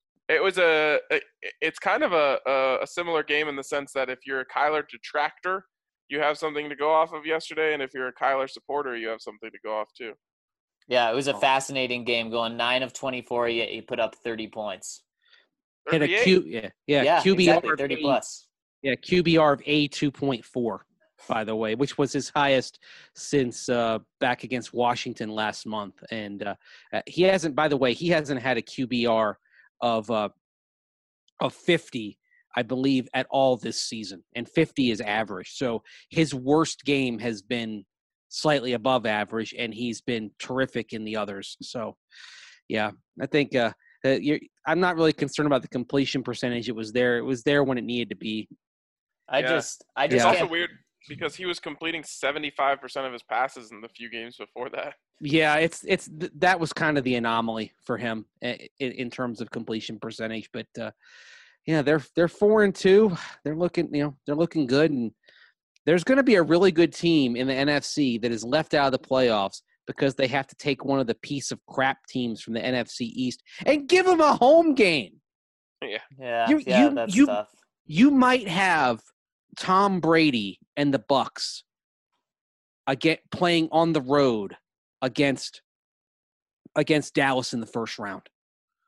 it's kind of a similar game in the sense that if you're a Kyler detractor, you have something to go off of yesterday, and if you're a Kyler supporter, you have something to go off too. Yeah, it was a fascinating game, going 9 of 24, yet he put up 30 points. Hit a QBR exactly, 30 plus. Yeah, QBR of 2.4, by the way, which was his highest since back against Washington last month. And he hasn't had a QBR of 50, I believe, at all this season, and 50 is average. So his worst game has been slightly above average, and he's been terrific in the others. So, yeah, I think I'm not really concerned about the completion percentage. It was there when it needed to be. It's also weird because he was completing 75% of his passes in the few games before that. Yeah, that was kind of the anomaly for him in terms of completion percentage. But they're 4-2. They're looking good, and there's going to be a really good team in the NFC that is left out of the playoffs because they have to take one of the piece of crap teams from the NFC East and give them a home game. That's tough. You might have Tom Brady and the Bucks playing on the road against Dallas in the first round.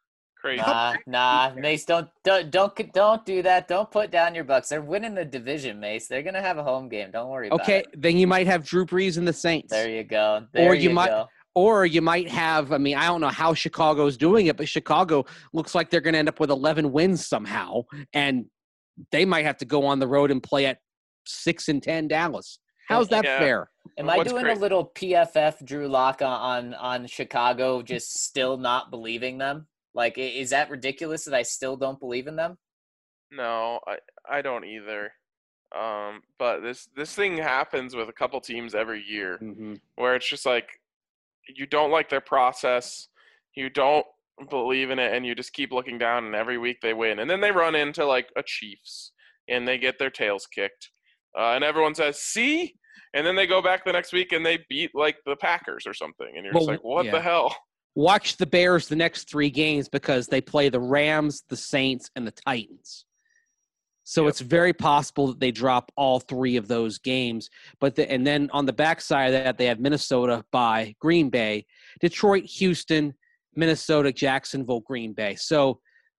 Crazy. Nah, Mace, don't do that. Don't put down your Bucks. They're winning the division, Mace. They're gonna have a home game. Don't worry about Okay, it. then you might have Drew Brees and the Saints. There you go. Or you might have, I mean, I don't know how Chicago's doing it, but Chicago looks like they're going to end up with 11 wins somehow, and they might have to go on the road and play at 6-10 Dallas. How's that fair? Am I doing a little PFF Drew Lock on Chicago, just still not believing them? Like, is that ridiculous that I still don't believe in them? No, I don't either. But this thing happens with a couple teams every year, where it's just like you don't like their process, you don't believe in it, and you just keep looking down, and every week they win, and then they run into like a Chiefs, and they get their tails kicked, and everyone says, "See," and then they go back the next week and they beat like the Packers or something, and you're just like, "What the hell?" Watch the Bears the next 3 games because they play the Rams, the Saints, and the Titans. So it's very possible that they drop all 3 of those games. And then on the backside of that, they have Minnesota by Green Bay, Detroit, Houston, Minnesota, Jacksonville, Green Bay. So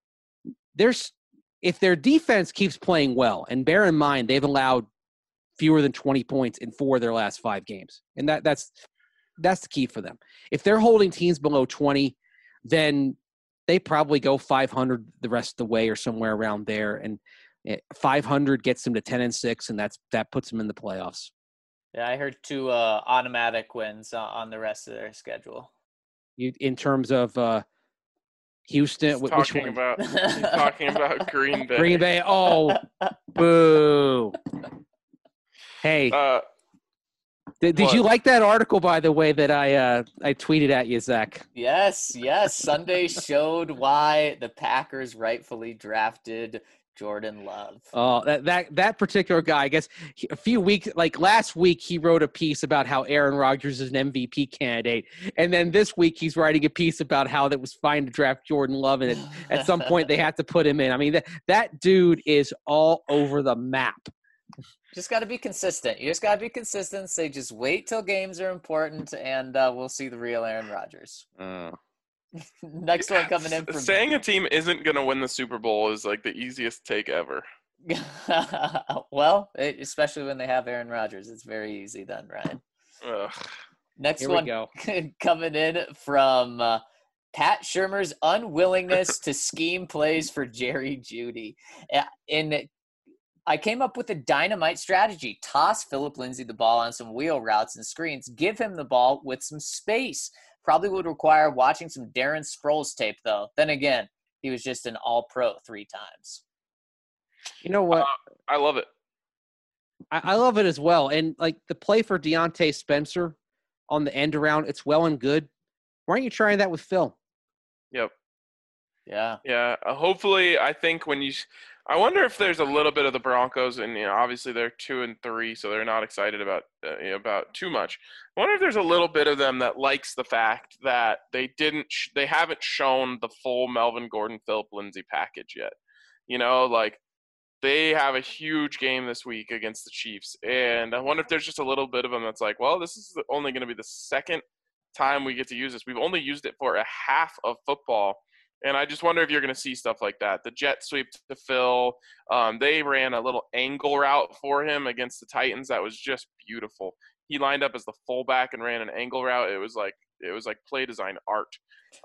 if their defense keeps playing well, and bear in mind they've allowed fewer than 20 points in 4 of their last 5 games, and that's the key for them. If they're holding teams below 20, then they probably go 500 the rest of the way or somewhere around there, and 500 gets them to 10-6, and that puts them in the playoffs. Yeah, I heard 2 automatic wins on the rest of their schedule. In terms of Houston, which one? He's talking about Green Bay. Green Bay. Oh, boo! Hey, did you like that article, by the way, that I tweeted at you, Zach? Yes. Sunday showed why the Packers rightfully drafted Jordan Love. Oh, that particular guy, I guess last week, he wrote a piece about how Aaron Rodgers is an MVP candidate. And then this week he's writing a piece about how it was fine to draft Jordan Love. And at some point they had to put him in. I mean, that dude is all over the map. Just got to be consistent. You just got to be consistent. Say, just wait till games are important, and we'll see the real Aaron Rodgers. Next one coming in from saying a team isn't going to win the Super Bowl is like the easiest take ever. Well, especially when they have Aaron Rodgers, it's very easy then, Ryan. Next one coming in from Pat Shurmur's unwillingness to scheme plays for Jerry Jeudy. I came up with a dynamite strategy. Toss Philip Lindsay the ball on some wheel routes and screens. Give him the ball with some space. Probably would require watching some Darren Sproles tape, though. Then again, he was just an all-pro 3 times. You know what? I love it. I love it as well. And, like, the play for Deontay Spencer on the end around, it's well and good. Why aren't you trying that with Phil? Yep. Yeah. Yeah. Hopefully, I think I wonder if there's a little bit of the Broncos, and obviously they're 2-3, so they're not excited about too much. I wonder if there's a little bit of them that likes the fact that they haven't shown the full Melvin Gordon, Philip Lindsay package yet. Like they have a huge game this week against the Chiefs, and I wonder if there's just a little bit of them that's like, well, this is only going to be the second time we get to use this. We've only used it for a half of football. And I just wonder if you're going to see stuff like that. The jet sweep to Phil. They ran a little angle route for him against the Titans. That was just beautiful. He lined up as the fullback and ran an angle route. It was like play design art.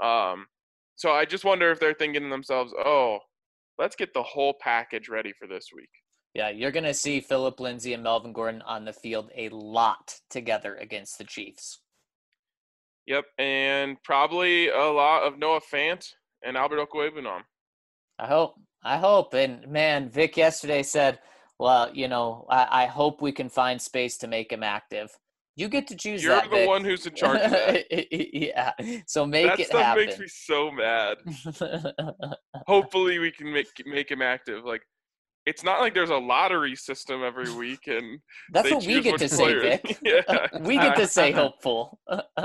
So I just wonder if they're thinking to themselves, oh, let's get the whole package ready for this week. Yeah, you're going to see Philip Lindsay and Melvin Gordon on the field a lot together against the Chiefs. Yep, and probably a lot of Noah Fant and Albert Okwuegbunam. I hope. And, man, Vic yesterday said, well, I hope we can find space to make him active. You get to choose You're that, the Vic. one who's in charge of that. Yeah, so make it happen. That stuff makes me so mad. Hopefully we can make him active. Like, it's not like there's a lottery system every week. And that's what we get to say, Vic. Yeah. We get to say hopeful.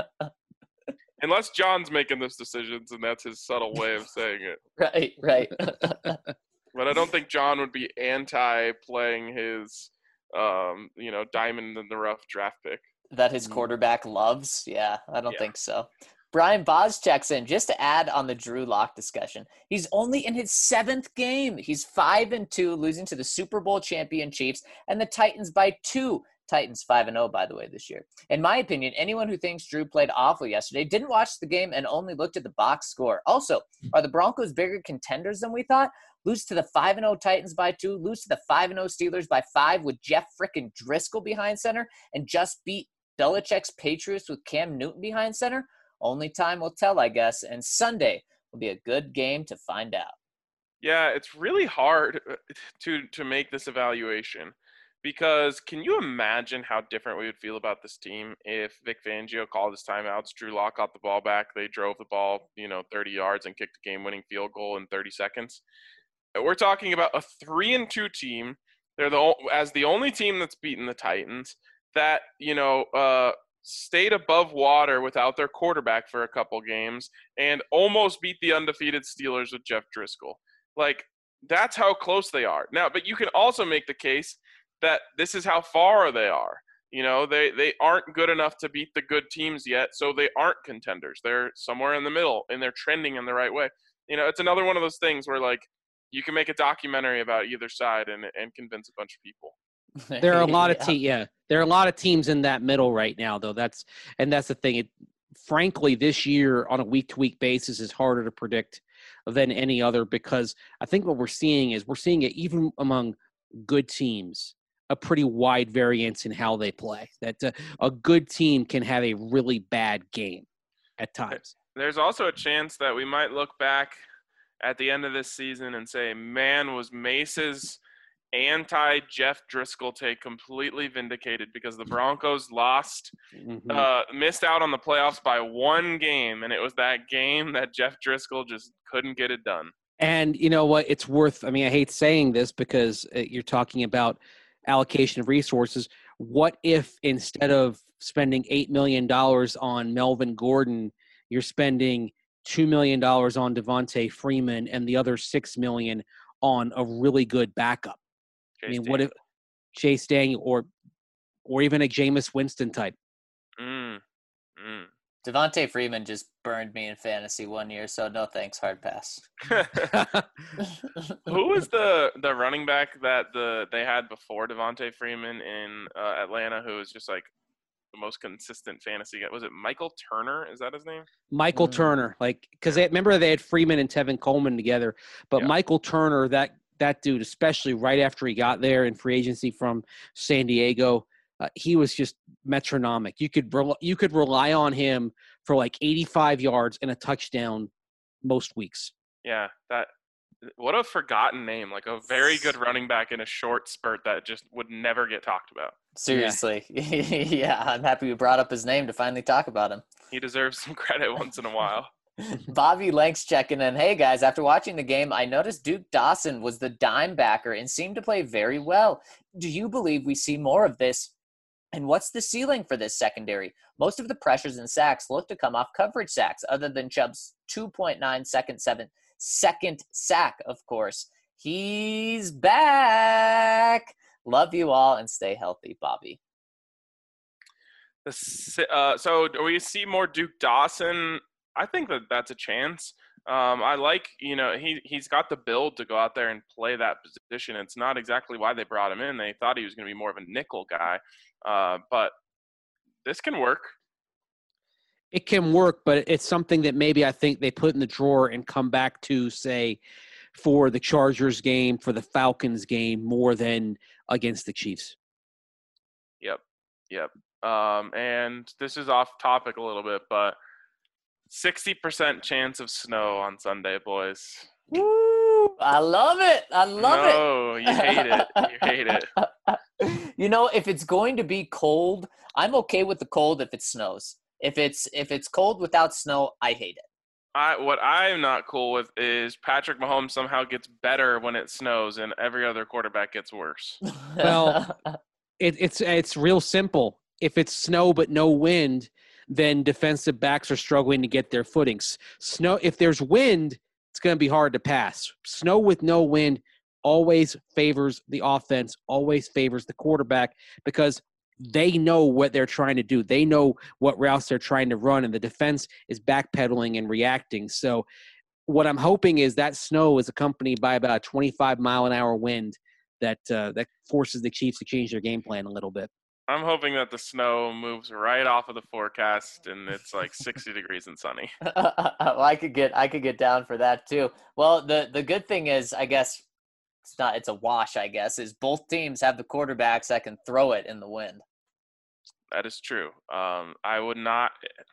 Unless John's making those decisions, and that's his subtle way of saying it. Right. But I don't think John would be anti-playing his, diamond in the rough draft pick. That his quarterback loves? Yeah, I don't think so. Brian Boz checks in just to add on the Drew Lock discussion. He's only in his 7th game. He's 5-2, losing to the Super Bowl champion Chiefs and the Titans by 2. Titans 5-0, by the way, this year. In my opinion, anyone who thinks Drew played awful yesterday didn't watch the game and only looked at the box score. Also, are the Broncos bigger contenders than we thought? Lose to the 5-0 Titans by 2, lose to the 5-0 Steelers by 5 with Jeff frickin' Driscoll behind center, and just beat Belichick's Patriots with Cam Newton behind center? Only time will tell, I guess, and Sunday will be a good game to find out. Yeah, it's really hard to make this evaluation. Because can you imagine how different we would feel about this team if Vic Fangio called his timeouts, Drew Lock got the ball back, they drove the ball, 30 yards and kicked a game-winning field goal in 30 seconds? We're talking about a 3-2 team. They're as the only team that's beaten the Titans that, stayed above water without their quarterback for a couple games and almost beat the undefeated Steelers with Jeff Driscoll. Like, that's how close they are. Now, but you can also make the case that this is how far they are. They aren't good enough to beat the good teams yet, so they aren't contenders. They're somewhere in the middle, and they're trending in the right way. It's another one of those things where, like, you can make a documentary about either side and convince a bunch of people. There are a lot of there are a lot of teams in that middle right now, though. That's the thing. Frankly, this year on a week-to-week basis is harder to predict than any other, because I think what we're seeing it even among good teams, a pretty wide variance in how they play. That a good team can have a really bad game at times. There's also a chance that we might look back at the end of this season and say, man, was Mace's anti-Jeff Driscoll take completely vindicated, because the Broncos missed out on the playoffs by 1 game, and it was that game that Jeff Driscoll just couldn't get it done. And you know what? It's worth – I mean, I hate saying this because you're talking about allocation of resources. What if instead of spending $8 million on Melvin Gordon, you're spending $2 million on Devontae Freeman and the other $6 million on a really good backup? What if Chase Daniel or even a Jameis Winston type? Devontae Freeman just burned me in fantasy 1 year, so no thanks, hard pass. Who was the running back that they had before Devontae Freeman in Atlanta, who was just like the most consistent fantasy guy? Was it Michael Turner? Is that his name? Michael Turner, because remember they had Freeman and Tevin Coleman together, but yeah. Michael Turner, that dude, especially right after he got there in free agency from San Diego. He was just metronomic. You could rely on him for like 85 yards and a touchdown most weeks. Yeah, what a forgotten name. Like a very good running back in a short spurt that just would never get talked about. Seriously. Yeah, I'm happy we brought up his name to finally talk about him. He deserves some credit once in a while. Bobby Lanks checking in. Hey, guys, after watching the game, I noticed Duke Dawson was the dime backer and seemed to play very well. Do you believe we see more of this? And what's the ceiling for this secondary? Most of the pressures and sacks look to come off coverage sacks, other than Chubb's 2.9 second sack, of course. He's back. Love you all and stay healthy, Bobby. So do we see more Duke Dawson? I think that's a chance. I like, he's got the build to go out there and play that position. It's not exactly why they brought him in. They thought he was going to be more of a nickel guy. But this can work. It can work, but it's something that maybe I think they put in the drawer and come back to, say, for the Chargers game, for the Falcons game, more than against the Chiefs. Yep. And this is off topic a little bit, but 60% chance of snow on Sunday, boys. Woo! I love it. No, you hate it. You hate it. If it's going to be cold, I'm okay with the cold if it snows. If it's cold without snow, I hate it. What I'm not cool with is Patrick Mahomes somehow gets better when it snows and every other quarterback gets worse. Well, it's real simple. If it's snow but no wind, then defensive backs are struggling to get their footings. Snow, if there's wind, it's going to be hard to pass. Snow with no wind always favors the offense, always favors the quarterback, because they know what they're trying to do. They know what routes they're trying to run, and the defense is backpedaling and reacting. So what I'm hoping is that snow is accompanied by about a 25-mile-an-hour wind that forces the Chiefs to change their game plan a little bit. I'm hoping that the snow moves right off of the forecast and it's like 60 degrees and sunny. Well, I could get down for that too. Well, the good thing is, I guess it's a wash, I guess, is both teams have the quarterbacks that can throw it in the wind. That is true. I would not.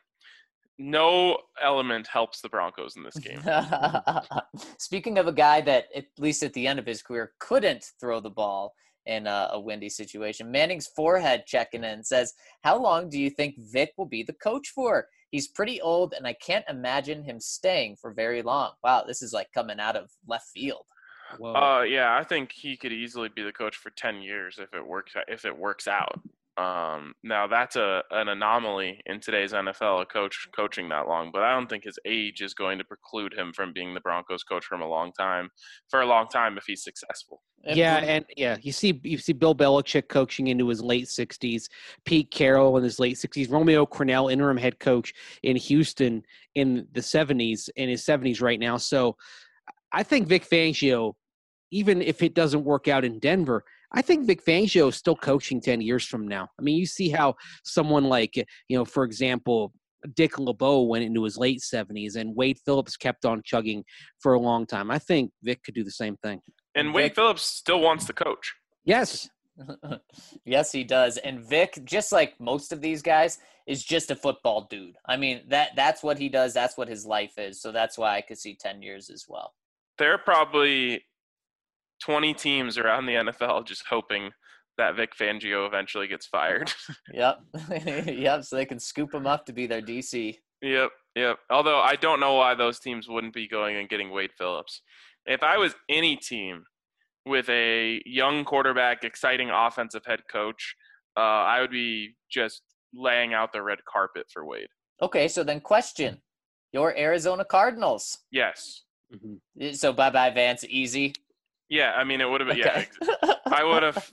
No element helps the Broncos in this game. Speaking of a guy that, at least at the end of his career, couldn't throw the ball in a windy situation, Manning's forehead checking in says, how long do you think Vic will be the coach for? He's pretty old, and I can't imagine him staying for very long. Wow, this is like coming out of left field. Yeah, I think he could easily be the coach for 10 years if it works out. Now that's an anomaly in today's NFL, a coach coaching that long, but I don't think his age is going to preclude him from being the Broncos coach for a long time if he's successful. You see Bill Belichick coaching into his late 60s, Pete Carroll in his late 60s, Romeo Crennel, interim head coach in Houston in his 70s right now. So I think Vic Fangio, even if it doesn't work out in Denver, I think Vic Fangio is still coaching 10 years from now. I mean, you see how someone like, for example, Dick LeBeau went into his late 70s and Wade Phillips kept on chugging for a long time. I think Vic could do the same thing. And Wade Phillips still wants to coach. Yes. Yes, he does. And Vic, just like most of these guys, is just a football dude. I mean, that's what he does. That's what his life is. So that's why I could see 10 years as well. There are probably 20 teams around the NFL just hoping that Vic Fangio eventually gets fired. Yep. Yep. So they can scoop him up to be their DC. Yep. Although I don't know why those teams wouldn't be going and getting Wade Phillips. If I was any team with a young quarterback, exciting offensive head coach, I would be just laying out the red carpet for Wade. Okay. So then question, your Arizona Cardinals. Yes. Mm-hmm. So bye-bye Vance, easy. Yeah, I mean, it would have been, okay. Yeah, I would have,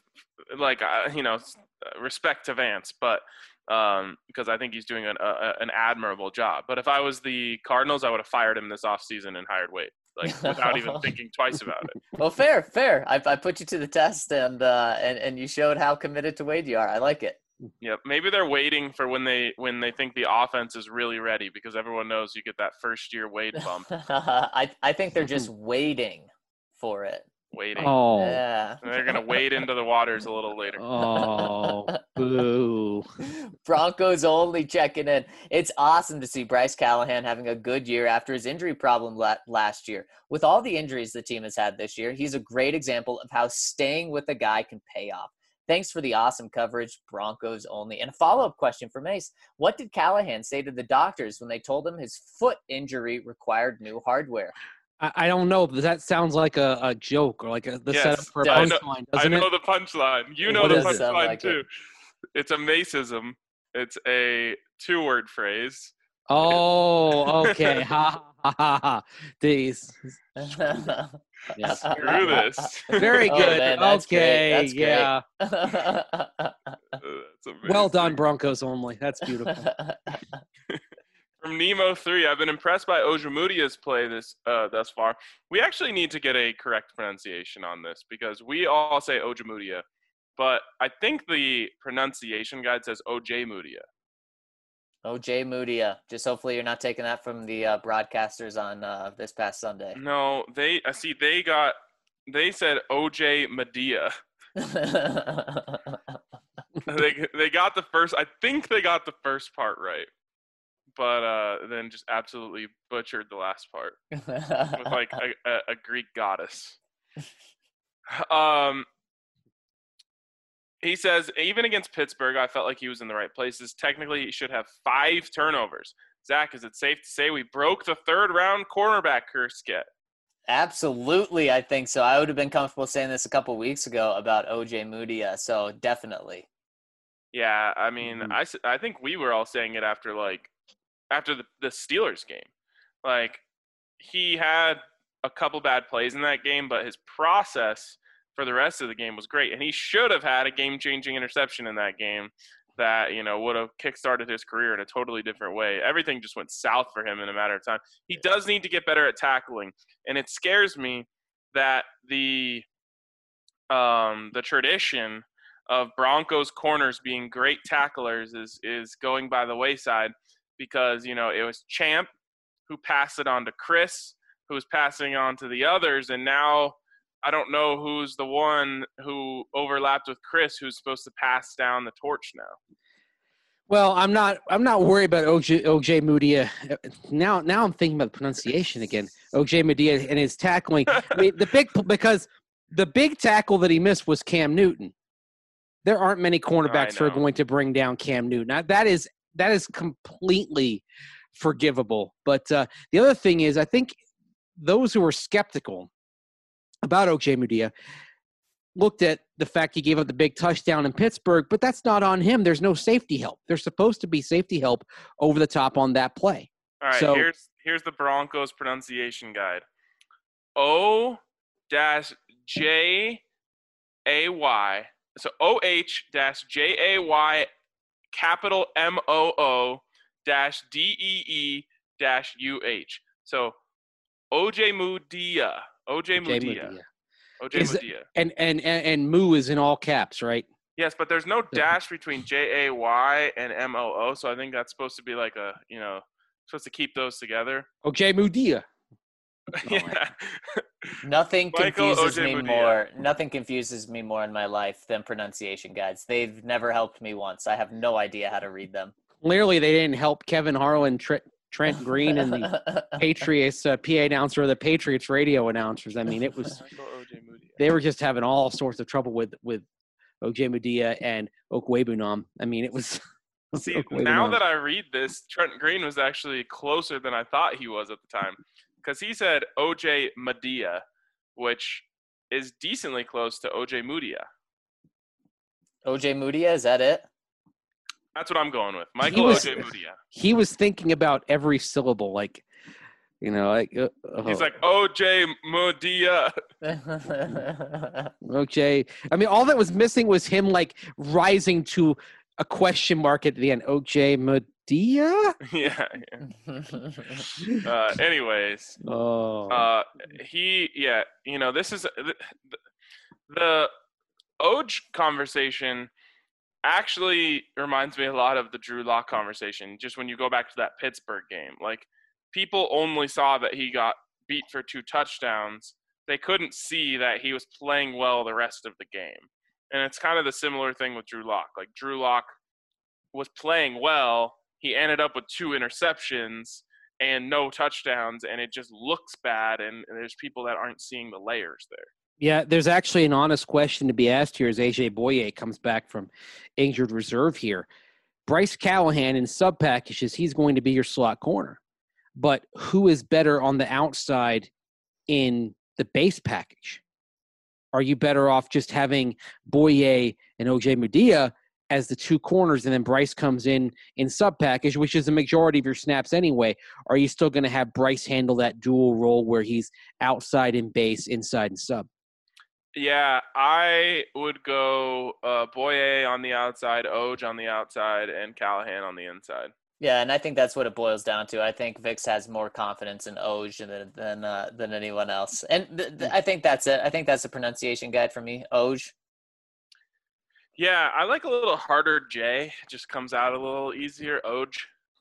respect to Vance, but because I think he's doing an admirable job. But if I was the Cardinals, I would have fired him this offseason and hired Wade, without even thinking twice about it. Well, fair. I put you to the test, and you showed how committed to Wade you are. I like it. Yep. Maybe they're waiting for when they think the offense is really ready, because everyone knows you get that first-year Wade bump. I think they're just waiting for it. Waiting. Oh. Yeah. They're going to wade into the waters a little later. Oh, boo. Broncos only checking in. It's awesome to see Bryce Callahan having a good year after his injury problem last year. With all the injuries the team has had this year, he's a great example of how staying with a guy can pay off. Thanks for the awesome coverage, Broncos only. And a follow-up question for Mace. What did Callahan say to the doctors when they told him his foot injury required new hardware? I don't know, but that sounds like a joke or like the setup for a punchline, doesn't it? I know the punchline. You know the punchline, too. It's a Maceism. It's a two-word phrase. Oh, okay. Ha, ha, ha, ha. These. Yes. Screw this. Very good. Man, that's okay, great. yeah. That's Well done, Broncos only. That's beautiful. From Nemo 3, I've been impressed by Ojemudia's play thus far. We actually need to get a correct pronunciation on this because we all say Ojemudia, but I think the pronunciation guide says Ojemudia. Ojemudia. Just hopefully you're not taking that from the broadcasters on this past Sunday. No, they said OJ Medea. they got the first. I think they got the first part right. But then just absolutely butchered the last part with like a Greek goddess. He says, even against Pittsburgh, I felt like he was in the right places. Technically, he should have 5 turnovers. Zach, is it safe to say we broke the third-round cornerback curse yet? Absolutely, I think so. I would have been comfortable saying this a couple weeks ago about Ojemudia, so definitely. Yeah, I mean, I think we were all saying it after the Steelers game. Like, he had a couple bad plays in that game, but his process for the rest of the game was great. And he should have had a game-changing interception in that game that, would have kickstarted his career in a totally different way. Everything just went south for him in a matter of time. He does need to get better at tackling. And it scares me that the tradition of Broncos corners being great tacklers is going by the wayside because, it was Champ who passed it on to Chris, who was passing on to the others. And now I don't know who's the one who overlapped with Chris who's supposed to pass down the torch now. Well, I'm not worried about OJ Mudia. Now I'm thinking about the pronunciation again. OJ Mudia and his tackling. I mean, because the big tackle that he missed was Cam Newton. There aren't many cornerbacks who are going to bring down Cam Newton. Now, that is completely forgivable. But the other thing is, I think those who were skeptical about OJ Mudia looked at the fact he gave up the big touchdown in Pittsburgh, but that's not on him. There's no safety help. There's supposed to be safety help over the top on that play. All right, so, here's the Broncos pronunciation guide. O-J-A-Y. So O-H-J-A-Y capital M-O-O-D-E-E-U-H. So OJ Mudia. OJ Mudia. And Moo is in all caps, right? Yes, but there's no dash between J-A-Y and M-O-O, so I think that's supposed to be like supposed to keep those together. OJ Mudia. Yeah. Nothing confuses OJ me Mudia. more. Nothing confuses me more in my life than pronunciation guides. They've never helped me once. I have no idea how to read them. Clearly, they didn't help Kevin Harlan, Trent Green, and the Patriots PA announcer or the Patriots radio announcers. I mean, it was they were just having all sorts of trouble with OJ Mudia and Okwebunam. I mean, it was. See, now that I read this, Trent Green was actually closer than I thought he was at the time. Because he said OJ Mudia, which is decently close to OJ Mudia. OJ Mudia, is that it? That's what I'm going with. Michael OJ Mudia. He was thinking about every syllable, like, he's like OJ Mudia. OJ. I mean, all that was missing was him, like, rising to a question mark at the end. OJ Mudia? Yeah. Anyways. Oh. This is the Oj conversation actually reminds me a lot of the Drew Lock conversation. Just when you go back to that Pittsburgh game, like people only saw that he got beat for 2 touchdowns. They couldn't see that he was playing well the rest of the game. And it's kind of the similar thing with Drew Lock. Like Drew Lock was playing well. He ended up with 2 interceptions and no touchdowns, and it just looks bad, and there's people that aren't seeing the layers there. Yeah, there's actually an honest question to be asked here as AJ Boye comes back from injured reserve here. Bryce Callahan in sub packages, he's going to be your slot corner. But who is better on the outside in the base package? Are you better off just having Boye and OJ Mudia as the 2 corners, and then Bryce comes in sub package, which is the majority of your snaps anyway? Are you still going to have Bryce handle that dual role where he's outside in base, inside and sub? Yeah, I would go Boye on the outside, Oj on the outside, and Callahan on the inside. Yeah, and I think that's what it boils down to. I think Vix has more confidence in Oj than anyone else. And I think that's it. I think that's the pronunciation guide for me, Oj. Yeah, I like a little harder J. It just comes out a little easier, Oj.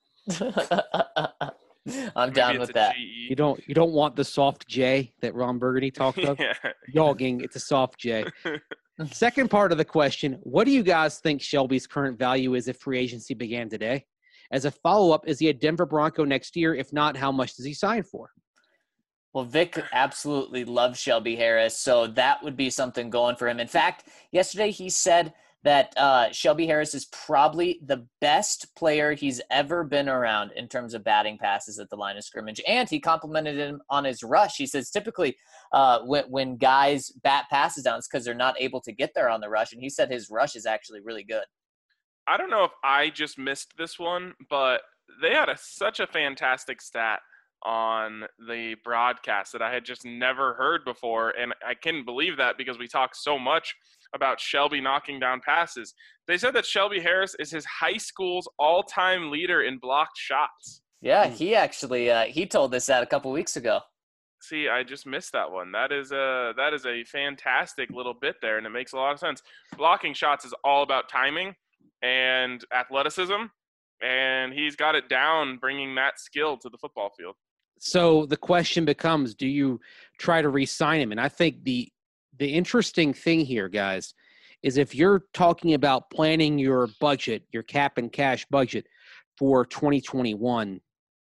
I'm down with that. You don't want the soft J that Ron Burgundy talked of? Yeah. Yogging, it's a soft J. Second part of the question, what do you guys think Shelby's current value is if free agency began today? As a follow-up, is he a Denver Bronco next year? If not, how much does he sign for? Well, Vic absolutely loves Shelby Harris, so that would be something going for him. In fact, yesterday he said that Shelby Harris is probably the best player he's ever been around in terms of batting passes at the line of scrimmage. And he complimented him on his rush. He says typically when guys bat passes down, it's because they're not able to get there on the rush. And he said his rush is actually really good. I don't know if I just missed this one, but they had such a fantastic stat on the broadcast that I had just never heard before. And I couldn't believe that because we talk so much about Shelby knocking down passes. They said that Shelby Harris is his high school's all-time leader in blocked shots. Yeah, he actually he told us that a couple weeks ago. See, I just missed that one. That is a fantastic little bit there, and it makes a lot of sense. Blocking shots is all about timing and athleticism, and he's got it down, bringing that skill to the football field. So the question becomes, do you try to re-sign him? And I think the interesting thing here, guys, is if you're talking about planning your budget, your cap and cash budget for 2021,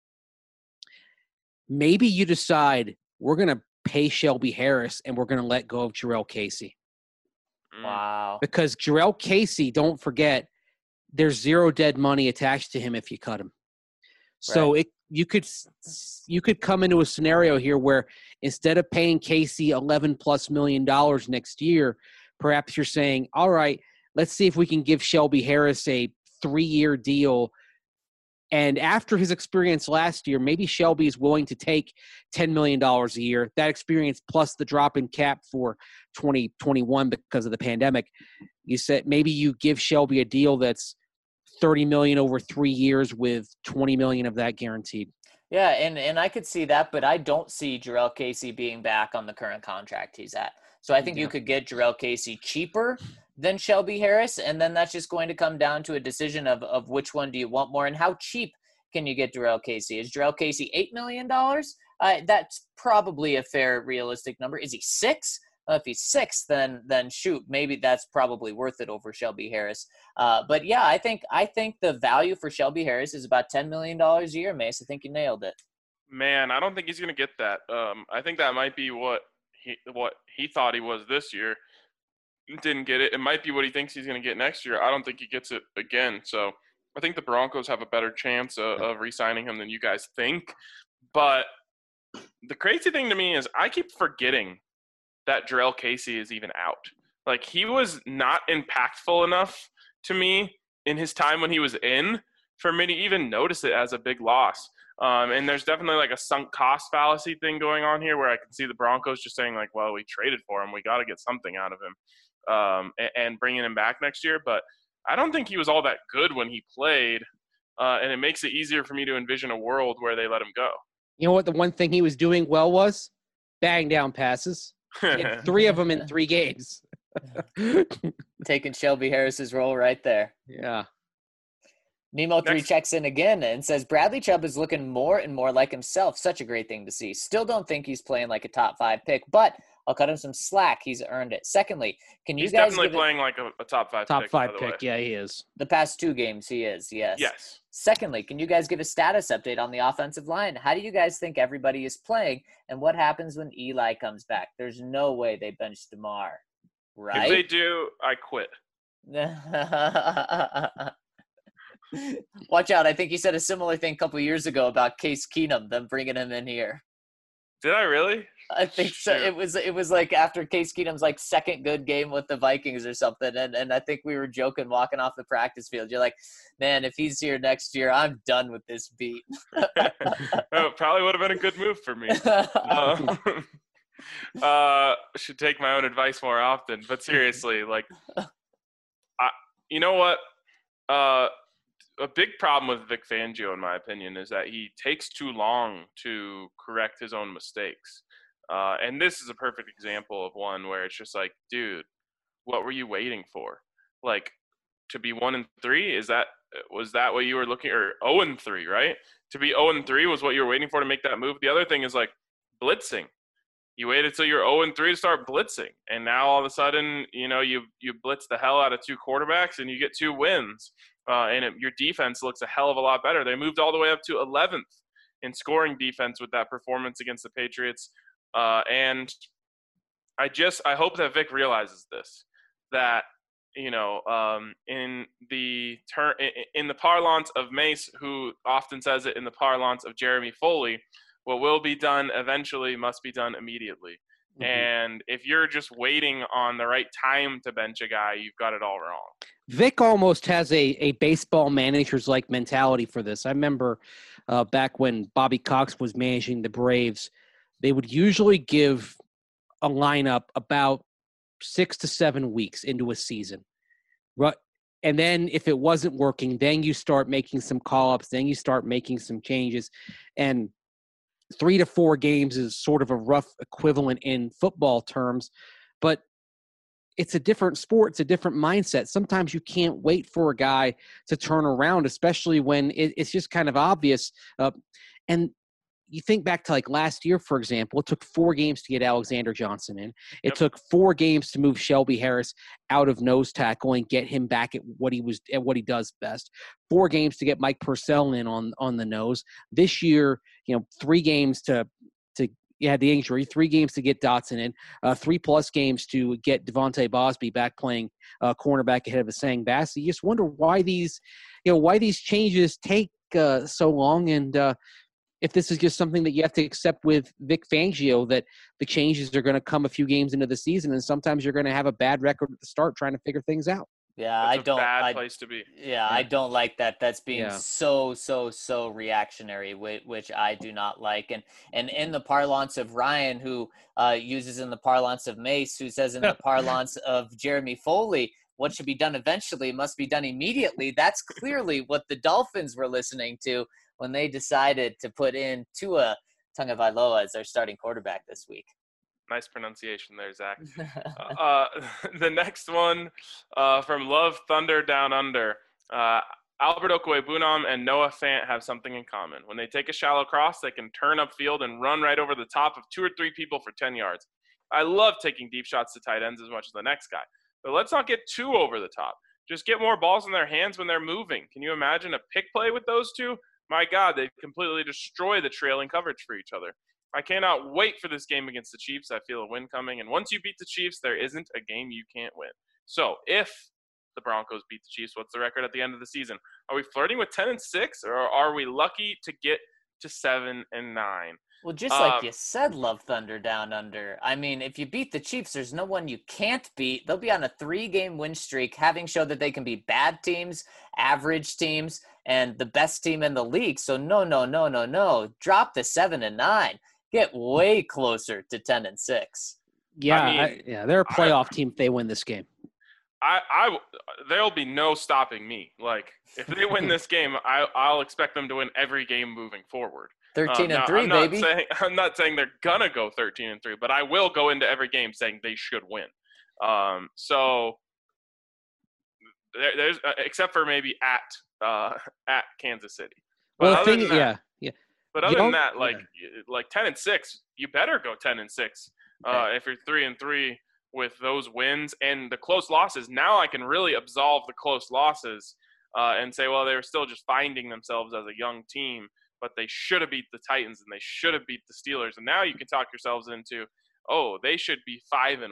maybe you decide we're going to pay Shelby Harris and we're going to let go of Jarrell Casey. Wow. Because Jarrell Casey, don't forget, there's zero dead money attached to him if you cut him. So Right. you could come into a scenario here where instead of paying Casey $11+ million next year, perhaps you're saying, all right, let's see if we can give Shelby Harris a 3-year deal. And after his experience last year, maybe Shelby is willing to take $10 million a year. That experience plus the drop in cap for 2021 because of the pandemic. You said maybe you give Shelby a deal that's $30 million over 3 years with $20 million of that guaranteed. Yeah, and I could see that, but I don't see Jarrell Casey being back on the current contract he's at. So I think you could get Jarrell Casey cheaper than Shelby Harris, and then that's just going to come down to a decision of which one do you want more and how cheap can you get Jarrell Casey. Is Jarrell Casey $8 million? That's probably a fair, realistic number. Is he 6? If he's 6, then shoot, maybe that's probably worth it over Shelby Harris. But yeah, I think the value for Shelby Harris is about $10 million a year, Mace. I think you nailed it. Man, I don't think he's going to get that. I think that might be what he thought he was this year. Didn't get it. It might be what he thinks he's going to get next year. I don't think he gets it again. So I think the Broncos have a better chance of re-signing him than you guys think. But the crazy thing to me is I keep forgetting that Jarrell Casey is even out. Like, he was not impactful enough to me in his time when he was in for me to even notice it as a big loss. And there's definitely like a sunk cost fallacy thing going on here where I can see the Broncos just saying like, well, we traded for him. We got to get something out of him and bringing him back next year. But I don't think he was all that good when he played. And it makes it easier for me to envision a world where they let him go. You know what the one thing he was doing well was? Batting down passes. He had 3 of them in 3 games. Taking Shelby Harris's role right there. Yeah. Nemo3 checks in again and says, Bradley Chubb is looking more and more like himself. Such a great thing to see. Still don't think he's playing like a top 5 pick, but I'll cut him some slack. He's earned it. Secondly, can you He's guys definitely playing like a top 5 Top pick. 5 by the way. pick. Yeah, he is. The past 2 games he is, yes. Yes. Secondly, can you guys give a status update on the offensive line? How do you guys think everybody is playing, and what happens when Eli comes back? There's no way they bench DeMar, right? If they do, I quit. Watch out. I think you said a similar thing a couple years ago about Case Keenum, them bringing him in here. Did I really? I think so. Shoot. It was like after Case Keenum's like second good game with the Vikings or something, and I think we were joking walking off the practice field. You're like, man, if he's here next year, I'm done with this beat. Oh, probably would have been a good move for me. Should take my own advice more often. But seriously, like, you know what? A big problem with Vic Fangio, in my opinion, is that he takes too long to correct his own mistakes. And this is a perfect example of one where it's just like, dude, what were you waiting for? Like, to be 1-3, was that what you were looking, or 0-3, right? To be 0-3 was what you were waiting for to make that move. The other thing is like blitzing. You waited till you're 0-3 to start blitzing, and now all of a sudden, you know, you blitz the hell out of 2 quarterbacks and you get 2 wins, your defense looks a hell of a lot better. They moved all the way up to 11th in scoring defense with that performance against the Patriots, and I hope that Vic realizes this, that, you know, in the parlance of Mace, who often says it in the parlance of Jeremy Foley, what will be done eventually must be done immediately. Mhm. And if you're just waiting on the right time to bench a guy, you've got it all wrong. Vic almost has a baseball manager's like mentality for this. I remember back when Bobby Cox was managing the Braves, they would usually give a lineup about 6 to 7 weeks into a season. And then if it wasn't working, then you start making some call-ups, then you start making some changes. And 3 to 4 games is sort of a rough equivalent in football terms, but it's a different sport. It's a different mindset. Sometimes you can't wait for a guy to turn around, especially when it's just kind of obvious. And you think back to like last year, for example, it took 4 games to get Alexander Johnson in. It took 4 games to move Shelby Harris out of nose tackle and get him back at what he does best. 4 games to get Mike Purcell in on the nose. This year, 3 games to had the injury, 3 games to get Dotson in, 3+ games to get Devontae Bosby back playing cornerback ahead of Asang Bassi. You just wonder why these changes take so long, and if this is just something that you have to accept with Vic Fangio, that the changes are going to come a few games into the season, and sometimes you're going to have a bad record at the start trying to figure things out. Yeah, It's a bad place to be. Yeah, I don't like that. That's being so reactionary, which I do not like. And in the parlance of Ryan, who uses in the parlance of Mace, who says in the parlance of Jeremy Foley, what should be done eventually must be done immediately. That's clearly what the Dolphins were listening to when they decided to put in Tua Tagovailoa as their starting quarterback this week. Nice pronunciation there, Zach. The next one from Love Thunder Down Under. Alberto Cuebunam and Noah Fant have something in common. When they take a shallow cross, they can turn upfield and run right over the top of 2 or 3 people for 10 yards. I love taking deep shots to tight ends as much as the next guy. But let's not get too over the top. Just get more balls in their hands when they're moving. Can you imagine a pick play with those two? My God, they completely destroy the trailing coverage for each other. I cannot wait for this game against the Chiefs. I feel a win coming. And once you beat the Chiefs, there isn't a game you can't win. So if the Broncos beat the Chiefs, what's the record at the end of the season? Are we flirting with 10-6, or are we lucky to get to 7-9? Well, just like you said, Love Thunder Down Under. I mean, if you beat the Chiefs, there's no one you can't beat. They'll be on a 3-game win streak, having showed that they can be bad teams, average teams, and the best team in the league. So no. Drop the 7-9. Get way closer to 10-6. Yeah, they're a playoff team if they win this game. There'll be no stopping me. Like, if they win this game, I'll expect them to win every game moving forward. 13-3, baby. I'm not saying they're gonna go 13-3, but I will go into every game saying they should win. So there's except for maybe at Kansas City. But But other than that, like 10-6, you better go 10-6 if you're 3-3 with those wins and the close losses. Now I can really absolve the close losses and say, well, they were still just finding themselves as a young team, but they should have beat the Titans and they should have beat the Steelers. And now you can talk yourselves into, oh, they should be 5-1.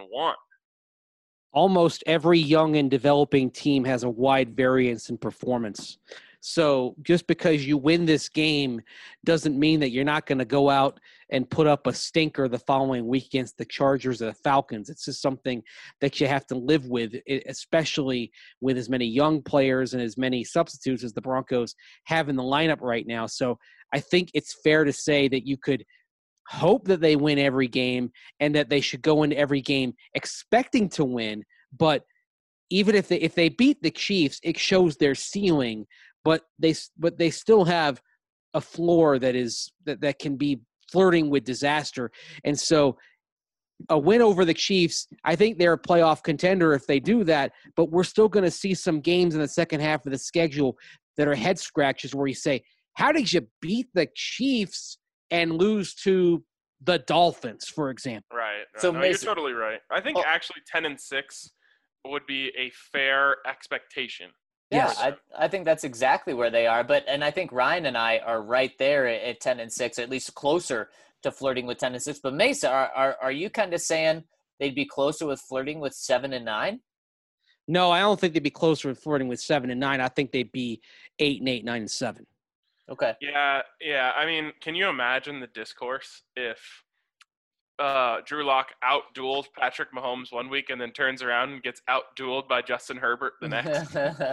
Almost every young and developing team has a wide variance in performance. So just because you win this game doesn't mean that you're not going to go out and put up a stinker the following week against the Chargers or the Falcons. It's just something that you have to live with, especially with as many young players and as many substitutes as the Broncos have in the lineup right now. So I think it's fair to say that you could hope that they win every game and that they should go into every game expecting to win. But even if they beat the Chiefs, it shows their ceiling. But they still have a floor that can be flirting with disaster. And so a win over the Chiefs, I think they're a playoff contender if they do that, but we're still going to see some games in the second half of the schedule that are head scratches where you say, how did you beat the Chiefs and lose to the Dolphins, for example? Right. So no, you're totally right. I think actually 10-6 would be a fair expectation. Yeah, yes. I think that's exactly where they are. And I think Ryan and I are right there at 10-6, at least closer to flirting with 10-6. But Mesa, are you kind of saying they'd be closer with flirting with 7-9? No, I don't think they'd be closer with flirting with 7-9. I think they'd be 8-8, 9-7. Okay. Yeah. I mean, can you imagine the discourse if Drew Lock out-duels Patrick Mahomes one week and then turns around and gets out-dueled by Justin Herbert the next.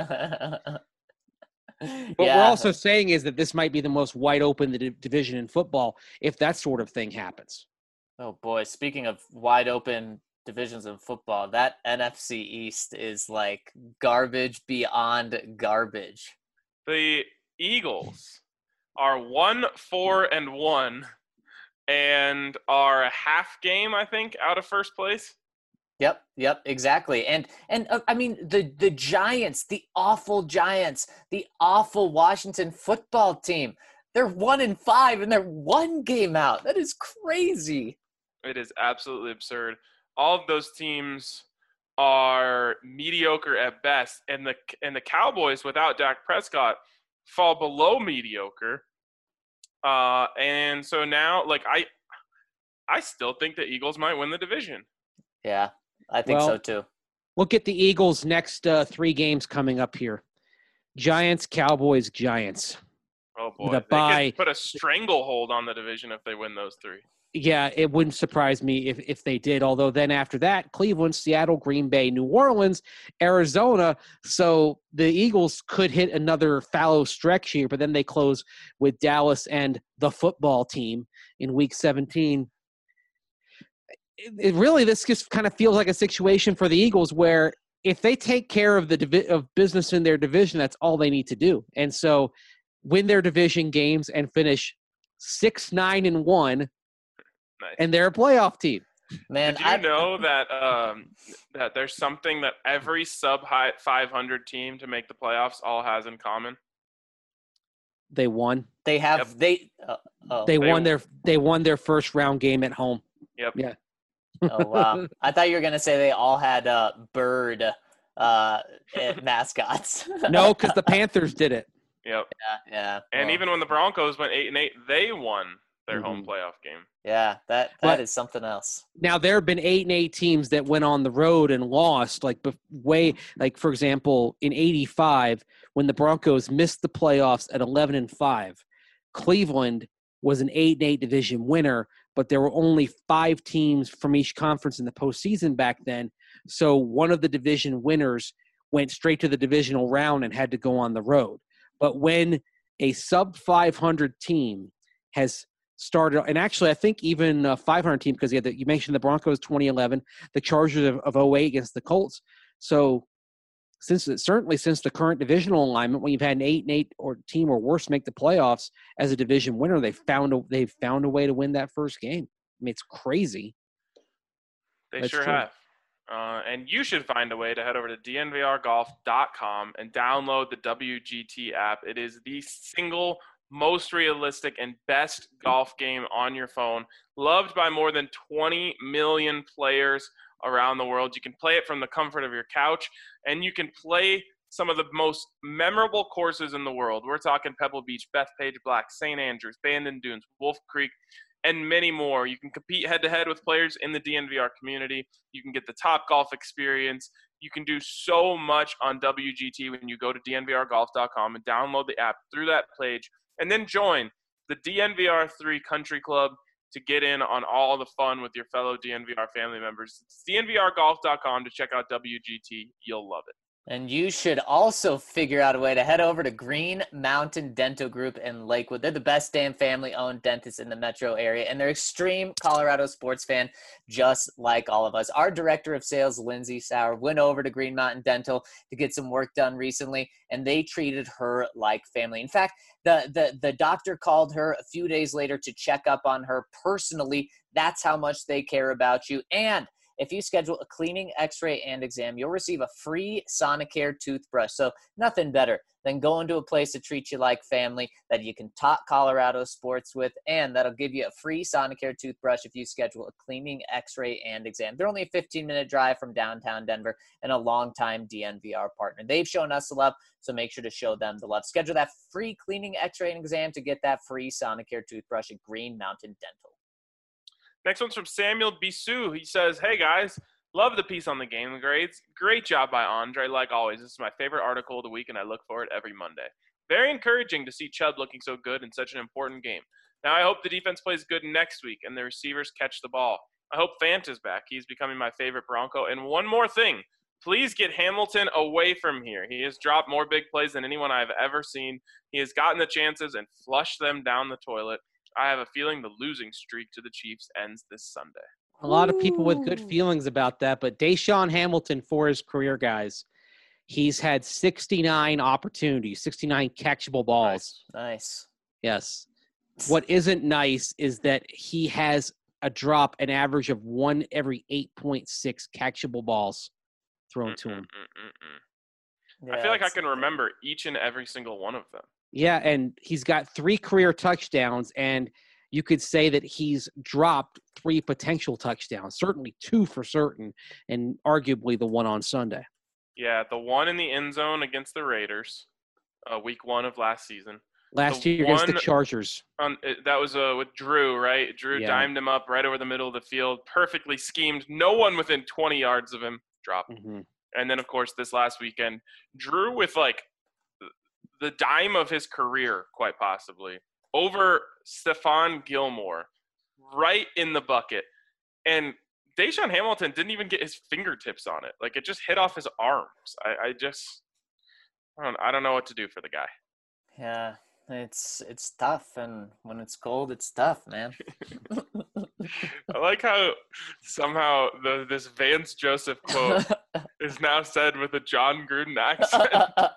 What we're also saying is that this might be the most wide open division in football if that sort of thing happens. Oh boy, speaking of wide open divisions in football, that NFC East is like garbage beyond garbage. The Eagles are 1-4-1 and are a half game, I think, out of first place. Yep, exactly. And I mean the Giants, the awful Giants, the awful Washington football team. They're 1-5 and they're one game out. That is crazy. It is absolutely absurd. All of those teams are mediocre at best, and the Cowboys without Dak Prescott fall below mediocre. And so now, like I still think the Eagles might win the division. Yeah, I think so too. Look at the Eagles' next 3 games coming up here: Giants, Cowboys, Giants. Oh boy, they could put a stranglehold on the division if they win those 3. Yeah, it wouldn't surprise me if they did. Although then after that, Cleveland, Seattle, Green Bay, New Orleans, Arizona. So the Eagles could hit another fallow stretch here, but then they close with Dallas and the football team in Week 17. This just kind of feels like a situation for the Eagles where if they take care of of business in their division, that's all they need to do. And so win their division games and finish 6-9-1. Nice. And they're a playoff team. Man, did you know that that there's something that every sub-high 500 team to make the playoffs all has in common? They won. They have They won their first round game at home. Yep. Yeah. Oh wow! I thought you were gonna say they all had bird mascots. No, because the Panthers did it. Yep. Yeah. And even when the Broncos went 8-8, they won their home playoff game. Yeah, that is something else. Now there have been 8-8 teams that went on the road and lost. Like for example, in '85 when the Broncos missed the playoffs at 11-5, Cleveland was an 8-8 division winner, but there were only 5 teams from each conference in the postseason back then. So one of the division winners went straight to the divisional round and had to go on the road. But when a sub 500 team has started, and actually I think even a 500 team, because you mentioned the Broncos 2011, the Chargers of 08 against the Colts. So since the current divisional alignment, when you've had an 8-8 or team or worse make the playoffs as a division winner, they've found a way to win that first game. I mean, it's crazy. They sure have. And you should find a way to head over to dnvrgolf.com and download the WGT app. It is the single most realistic and best golf game on your phone, loved by more than 20 million players around the world. You can play it from the comfort of your couch, and you can play some of the most memorable courses in the world. We're talking Pebble Beach, Bethpage Black, St. Andrews, Bandon Dunes, Wolf Creek, and many more. You can compete head-to-head with players in the DNVR community. You can get the top golf experience. You can do so much on WGT when you go to dnvrgolf.com and download the app through that page, and then join the DNVR3 Country Club to get in on all the fun with your fellow DNVR family members. It's dnvrgolf.com to check out WGT. You'll love it. And you should also figure out a way to head over to Green Mountain Dental Group in Lakewood. They're the best damn family-owned dentists in the metro area, and they're extreme Colorado sports fan, just like all of us. Our director of sales, Lindsay Sauer, went over to Green Mountain Dental to get some work done recently, and they treated her like family. In fact, the doctor called her a few days later to check up on her personally. That's how much they care about you. And if you schedule a cleaning, x-ray, and exam, you'll receive a free Sonicare toothbrush. So nothing better than going to a place to treat you like family that you can talk Colorado sports with, and that'll give you a free Sonicare toothbrush if you schedule a cleaning, x-ray, and exam. They're only a 15-minute drive from downtown Denver and a longtime DNVR partner. They've shown us the love, so make sure to show them the love. Schedule that free cleaning, x-ray, and exam to get that free Sonicare toothbrush at Green Mountain Dental. Next one's from Samuel Bisou. He says, "Hey guys, love the piece on the game grades. Great job by Andre. Like always, this is my favorite article of the week, and I look for it every Monday. Very encouraging to see Chubb looking so good in such an important game. Now I hope the defense plays good next week and the receivers catch the ball. I hope Fant is back. He's becoming my favorite Bronco. And one more thing. Please get Hamilton away from here. He has dropped more big plays than anyone I've ever seen. He has gotten the chances and flushed them down the toilet. I have a feeling the losing streak to the Chiefs ends this Sunday. A lot of people with good feelings about that, but Deshaun Hamilton, for his career, guys, he's had 69 opportunities, 69 catchable balls. Nice. Yes. What isn't nice is that he has an average of 1 every 8.6 catchable balls thrown to him. Yeah, I feel like I can remember each and every single one of them. Yeah, and he's got 3 career touchdowns, and you could say that he's dropped 3 potential touchdowns, certainly 2 for certain, and arguably the one on Sunday. Yeah, the one in the end zone against the Raiders, week 1 of last season. Last year against the Chargers. That was with Drew, right? Drew dimed him up right over the middle of the field, perfectly schemed. No one within 20 yards of him dropped. Mm-hmm. And then, of course, this last weekend, Drew with, like, the dime of his career, quite possibly, over Stephon Gilmore, right in the bucket. And Deshaun Hamilton didn't even get his fingertips on it. Like, it just hit off his arms. I don't know what to do for the guy. Yeah, it's tough, and when it's cold, it's tough, man. I like how somehow this Vance Joseph quote is now said with a John Gruden accent.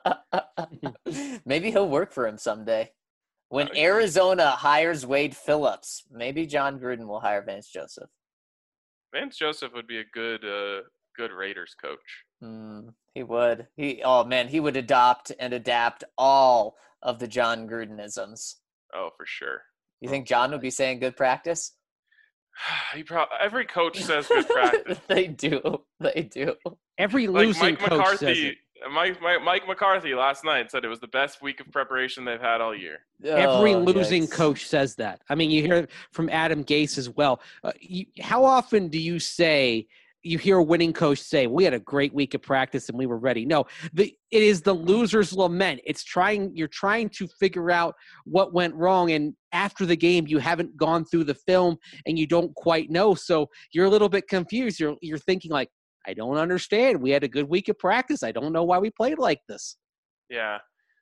Maybe he'll work for him someday. When Arizona hires Wade Phillips, maybe John Gruden will hire Vance Joseph. Vance Joseph would be a good Raiders coach. He would. He would adopt and adapt all of the John Grudenisms. Oh, for sure. You think John would be saying good practice? Every coach says good practice. They do. Every losing coach says it. Mike McCarthy last night said it was the best week of preparation they've had all year. Every losing coach says that. I mean, you hear it from Adam Gase as well. How often do you hear a winning coach say, we had a great week of practice and we were ready? No, it is the loser's lament. You're trying to figure out what went wrong. And after the game, you haven't gone through the film and you don't quite know. So you're a little bit confused. You're thinking like, I don't understand. We had a good week of practice. I don't know why we played like this. Yeah.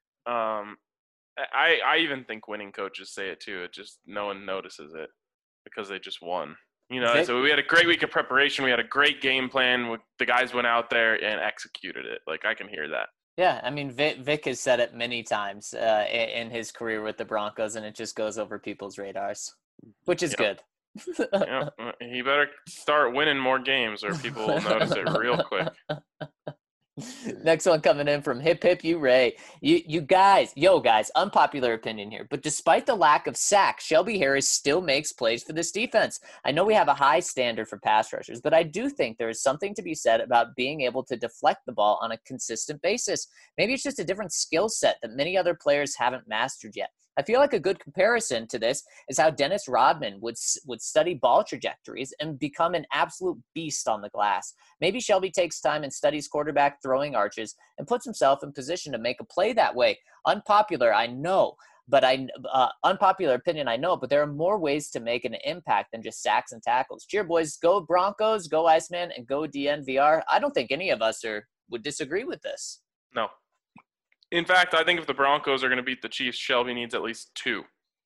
I even think winning coaches say it too. It just, no one notices it because they just won. So we had a great week of preparation. We had a great game plan. The guys went out there and executed it. Like, I can hear that. Yeah, I mean, Vic has said it many times in his career with the Broncos, and it just goes over people's radars, which is good. Yeah, he better start winning more games or people will notice it real quick. Next one coming in from Hip Hip You Ray. You guys, unpopular opinion here, but despite the lack of sacks, Shelby Harris still makes plays for this defense. I know we have a high standard for pass rushers, but I do think there is something to be said about being able to deflect the ball on a consistent basis. Maybe it's just a different skill set that many other players haven't mastered yet. I feel like a good comparison to this is how Dennis Rodman would study ball trajectories and become an absolute beast on the glass. Maybe Shelby takes time and studies quarterback throwing arches and puts himself in position to make a play that way. Unpopular, I know, but unpopular opinion, I know, but there are more ways to make an impact than just sacks and tackles. Cheer, boys. Go Broncos, go Iceman, and go DNVR. I don't think any of us would disagree with this. No. In fact, I think if the Broncos are going to beat the Chiefs, Shelby needs at least 2.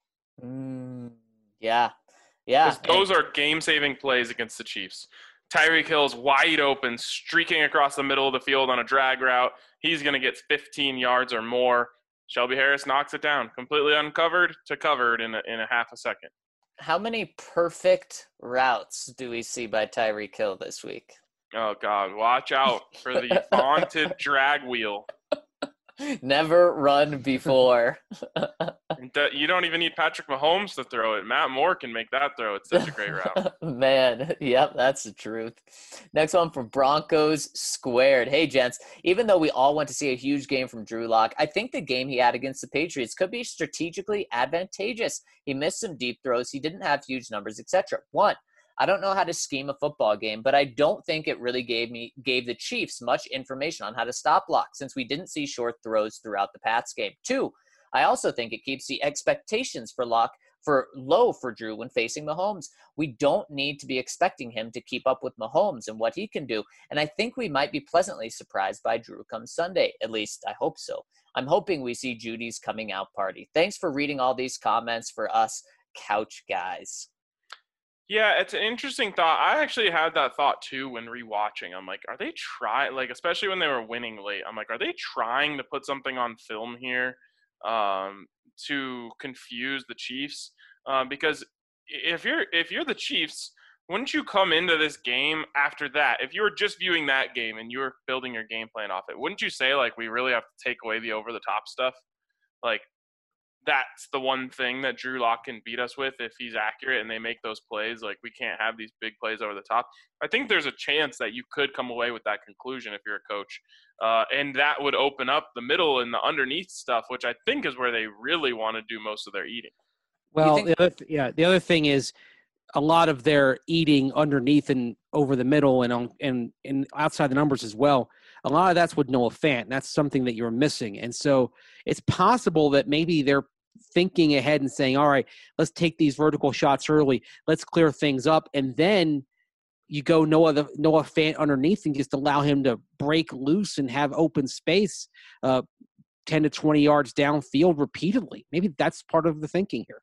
Yeah. Because those are game-saving plays against the Chiefs. Tyreek Hill's wide open, streaking across the middle of the field on a drag route. He's going to get 15 yards or more. Shelby Harris knocks it down, completely uncovered to covered in a half a second. How many perfect routes do we see by Tyreek Hill this week? Oh, God. Watch out for the vaunted drag wheel. Never run before. You don't even need Patrick Mahomes to throw it. Matt Moore can make that throw. It's such a great route. Man, yep, that's the truth. Next one from Broncos Squared. Hey, gents, even though we all went to see a huge game from Drew Lock, I think the game he had against the Patriots could be strategically advantageous. He missed some deep throws. He didn't have huge numbers, etc. 1, I don't know how to scheme a football game, but I don't think it really gave the Chiefs much information on how to stop block since we didn't see short throws throughout the Pats game. 2, I also think it keeps the expectations for Lock low for Drew when facing Mahomes. We don't need to be expecting him to keep up with Mahomes and what he can do. And I think we might be pleasantly surprised by Drew come Sunday. At least I hope so. I'm hoping we see Judy's coming out party. Thanks for reading all these comments for us couch guys. Yeah, it's an interesting thought. I actually had that thought too when rewatching. I'm like, are they trying, like, especially when they were winning late, I'm like, are they trying to put something on film here to confuse the Chiefs? Because if you're the Chiefs, wouldn't you come into this game after that? If you were just viewing that game and you were building your game plan off it, wouldn't you say, like, we really have to take away the over-the-top stuff? Like, that's the one thing that Drew Lock can beat us with if he's accurate and they make those plays. Like, we can't have these big plays over the top. I think there's a chance that you could come away with that conclusion if you're a coach. And that would open up the middle and the underneath stuff, which I think is where they really want to do most of their eating. Well, the other thing is a lot of their eating underneath and over the middle and outside the numbers as well. A lot of that's with Noah Fant. And that's something that you're missing. And so it's possible that maybe they're thinking ahead and saying, all right, let's take these vertical shots early. Let's clear things up. And then you go Noah Fant underneath and just allow him to break loose and have open space 10 to 20 yards downfield repeatedly. Maybe that's part of the thinking here.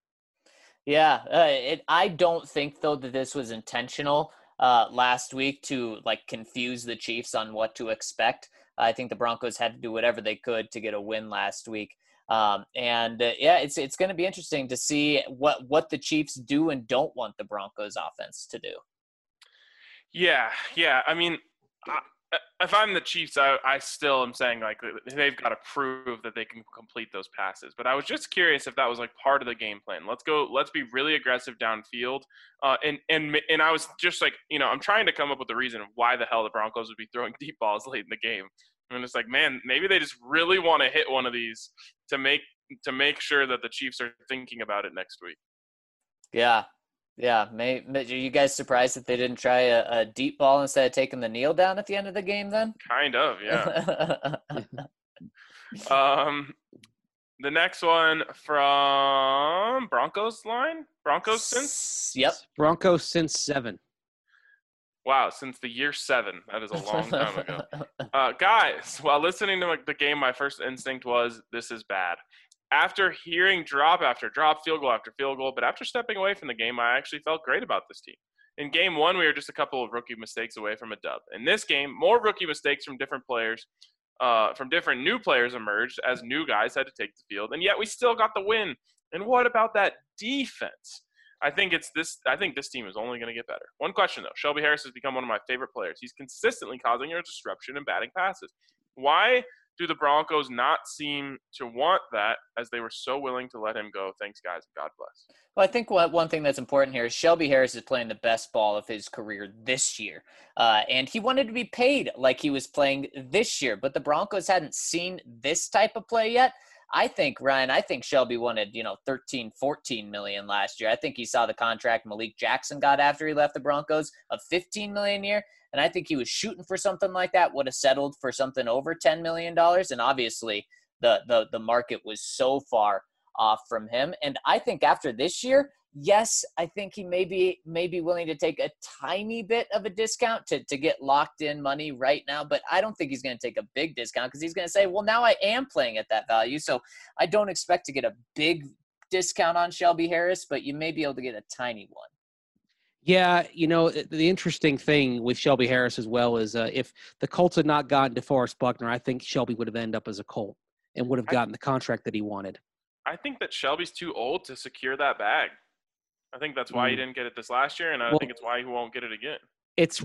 Yeah, I don't think, though, that this was intentional last week to, like, confuse the Chiefs on what to expect. I think the Broncos had to do whatever they could to get a win last week. It's going to be interesting to see what the Chiefs do and don't want the Broncos offense to do. Yeah. I mean, if I'm the Chiefs, I still am saying, like, they've got to prove that they can complete those passes. But I was just curious if that was, like, part of the game plan. Let's be really aggressive downfield. And I was just like, I'm trying to come up with the reason why the hell the Broncos would be throwing deep balls late in the game. And it's like, man, maybe they just really want to hit one of these to make sure that the Chiefs are thinking about it next week. Yeah. Are you guys surprised that they didn't try a deep ball instead of taking the kneel down at the end of the game then? Kind of, yeah. The next one from Broncos line? Broncos since? Yep. Broncos since 7. Wow, since the year 7. That is a long time ago. Guys, while listening to the game, my first instinct was, this is bad. After hearing drop after drop, field goal after field goal, but after stepping away from the game, I actually felt great about this team. In game 1, we were just a couple of rookie mistakes away from a dub. In this game, more rookie mistakes from different players, from different new players emerged as new guys had to take the field, and yet we still got the win. And what about that defense? I think this team is only going to get better. One question, though. Shelby Harris has become one of my favorite players. He's consistently causing a disruption and batting passes. Why do the Broncos not seem to want that, as they were so willing to let him go? Thanks, guys, and God bless. Well, I think one thing that's important here is Shelby Harris is playing the best ball of his career this year. And he wanted to be paid like he was playing this year, but the Broncos hadn't seen this type of play yet. I think Shelby wanted, 13, 14 million last year. I think he saw the contract Malik Jackson got after he left the Broncos of 15 million a year. And I think he was shooting for something like that, would have settled for something over $10 million. And obviously the market was so far off from him. And I think after this year, yes, I think he may be willing to take a tiny bit of a discount to get locked in money right now. But I don't think he's going to take a big discount because he's going to say, well, now I am playing at that value. So I don't expect to get a big discount on Shelby Harris, but you may be able to get a tiny one. Yeah, the interesting thing with Shelby Harris as well is if the Colts had not gotten DeForest Buckner, I think Shelby would have ended up as a Colt and would have gotten the contract that he wanted. I think that Shelby's too old to secure that bag. I think that's why he didn't get it this last year, and I think it's why he won't get it again. It's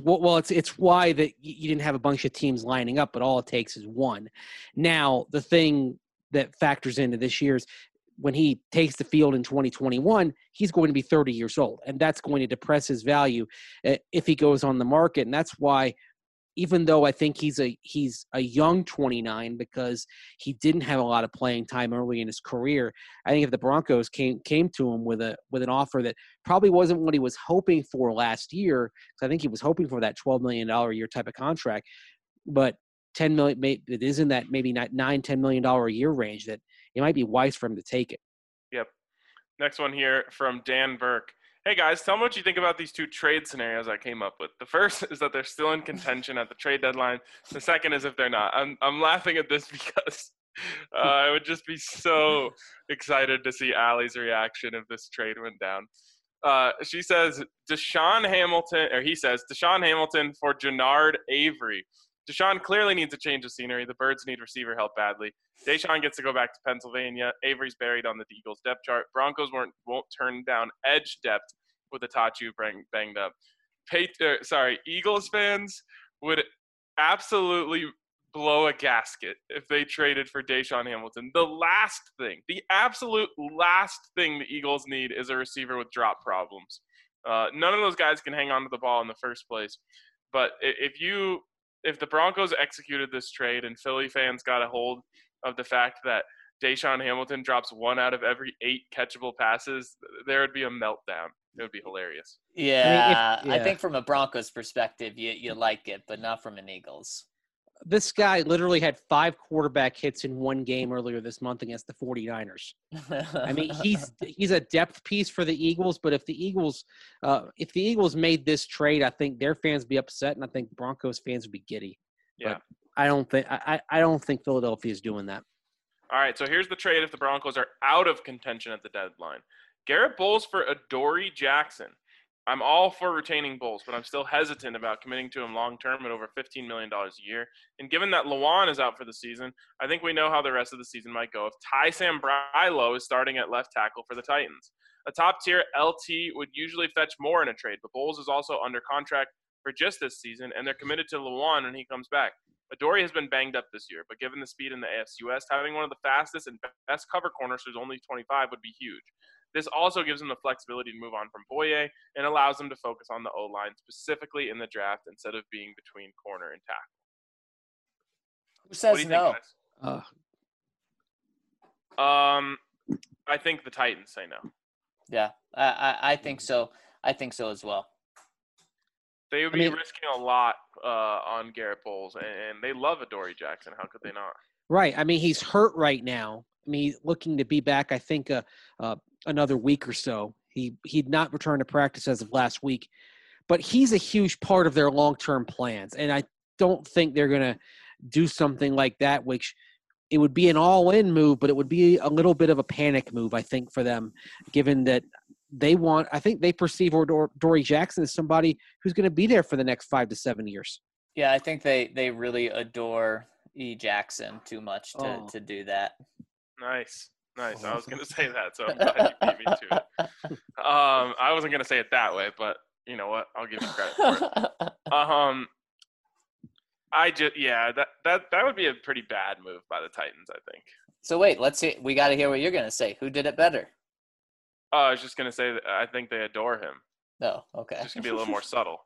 why that you didn't have a bunch of teams lining up, but all it takes is one. Now, the thing that factors into this year's when he takes the field in 2021, he's going to be 30 years old, and that's going to depress his value if he goes on the market. And that's why, even though I think he's a young 29 because he didn't have a lot of playing time early in his career, I think if the Broncos came to him with an offer that probably wasn't what he was hoping for last year, because I think he was hoping for that $12 million a year type of contract, but $10 million, it is in that maybe $9-10 million a year range, that it might be wise for him to take it. Yep. Next one here from Dan Burke. Hey guys, tell me what you think about these two trade scenarios I came up with. The first is that they're still in contention at the trade deadline. The second is if they're not. I'm laughing at this because I would just be so excited to see Allie's reaction if this trade went down. She says Deshaun Hamilton for Jannard Avery. Deshaun clearly needs a change of scenery. The Birds need receiver help badly. Deshaun gets to go back to Pennsylvania. Avery's buried on the Eagles depth chart. Broncos won't turn down edge depth with Atachu banged up. Eagles fans would absolutely blow a gasket if they traded for Deshaun Hamilton. The absolute last thing the Eagles need is a receiver with drop problems. None of those guys can hang on to the ball in the first place. But if the Broncos executed this trade and Philly fans got a hold of the fact that Deshaun Hamilton drops 1 out of every 8 catchable passes, there would be a meltdown. It would be hilarious. Yeah, I think from a Broncos perspective, you like it, but not from an Eagles. This guy literally had 5 quarterback hits in one game earlier this month against the 49ers. I mean, he's a depth piece for the Eagles, but if the Eagles made this trade, I think their fans would be upset, and I think Broncos fans would be giddy. Yeah. But I don't think Philadelphia is doing that. All right, so here's the trade if the Broncos are out of contention at the deadline. Garrett Bowles for Adoree Jackson. I'm all for retaining Bowles, but I'm still hesitant about committing to him long-term at over $15 million a year. And given that Lewan is out for the season, I think we know how the rest of the season might go if Ty Sambrailo is starting at left tackle for the Titans. A top-tier LT would usually fetch more in a trade, but Bowles is also under contract for just this season, and they're committed to Lewan when he comes back. Adoree has been banged up this year, but given the speed in the AFC West, having one of the fastest and best cover corners who's only 25 would be huge. This also gives them the flexibility to move on from Boye and allows them to focus on the O-line, specifically in the draft, instead of being between corner and tackle. Who says no? I think the Titans say no. Yeah, I think so. I think so as well. They would be risking a lot on Garrett Bowles, and they love Adoree Jackson. How could they not? Right. I mean, he's hurt right now. I mean, he's looking to be back, I think, another week or so. He'd not returned to practice as of last week. But he's a huge part of their long-term plans. And I don't think they're going to do something like that, which it would be an all-in move, but it would be a little bit of a panic move, I think, for them, given that I think they perceive Adoree Jackson as somebody who's going to be there for the next 5 to 7 years. Yeah, I think they really adore E. Jackson too much to do that. Nice. I was going to say that, so I'm glad you beat me to it. I wasn't going to say it that way, but you know what? I'll give you credit for it. That would be a pretty bad move by the Titans, I think. So wait, let's see. We got to hear what you're going to say. Who did it better? I was just going to say that I think they adore him. Oh, okay. It's just going to be a little more subtle.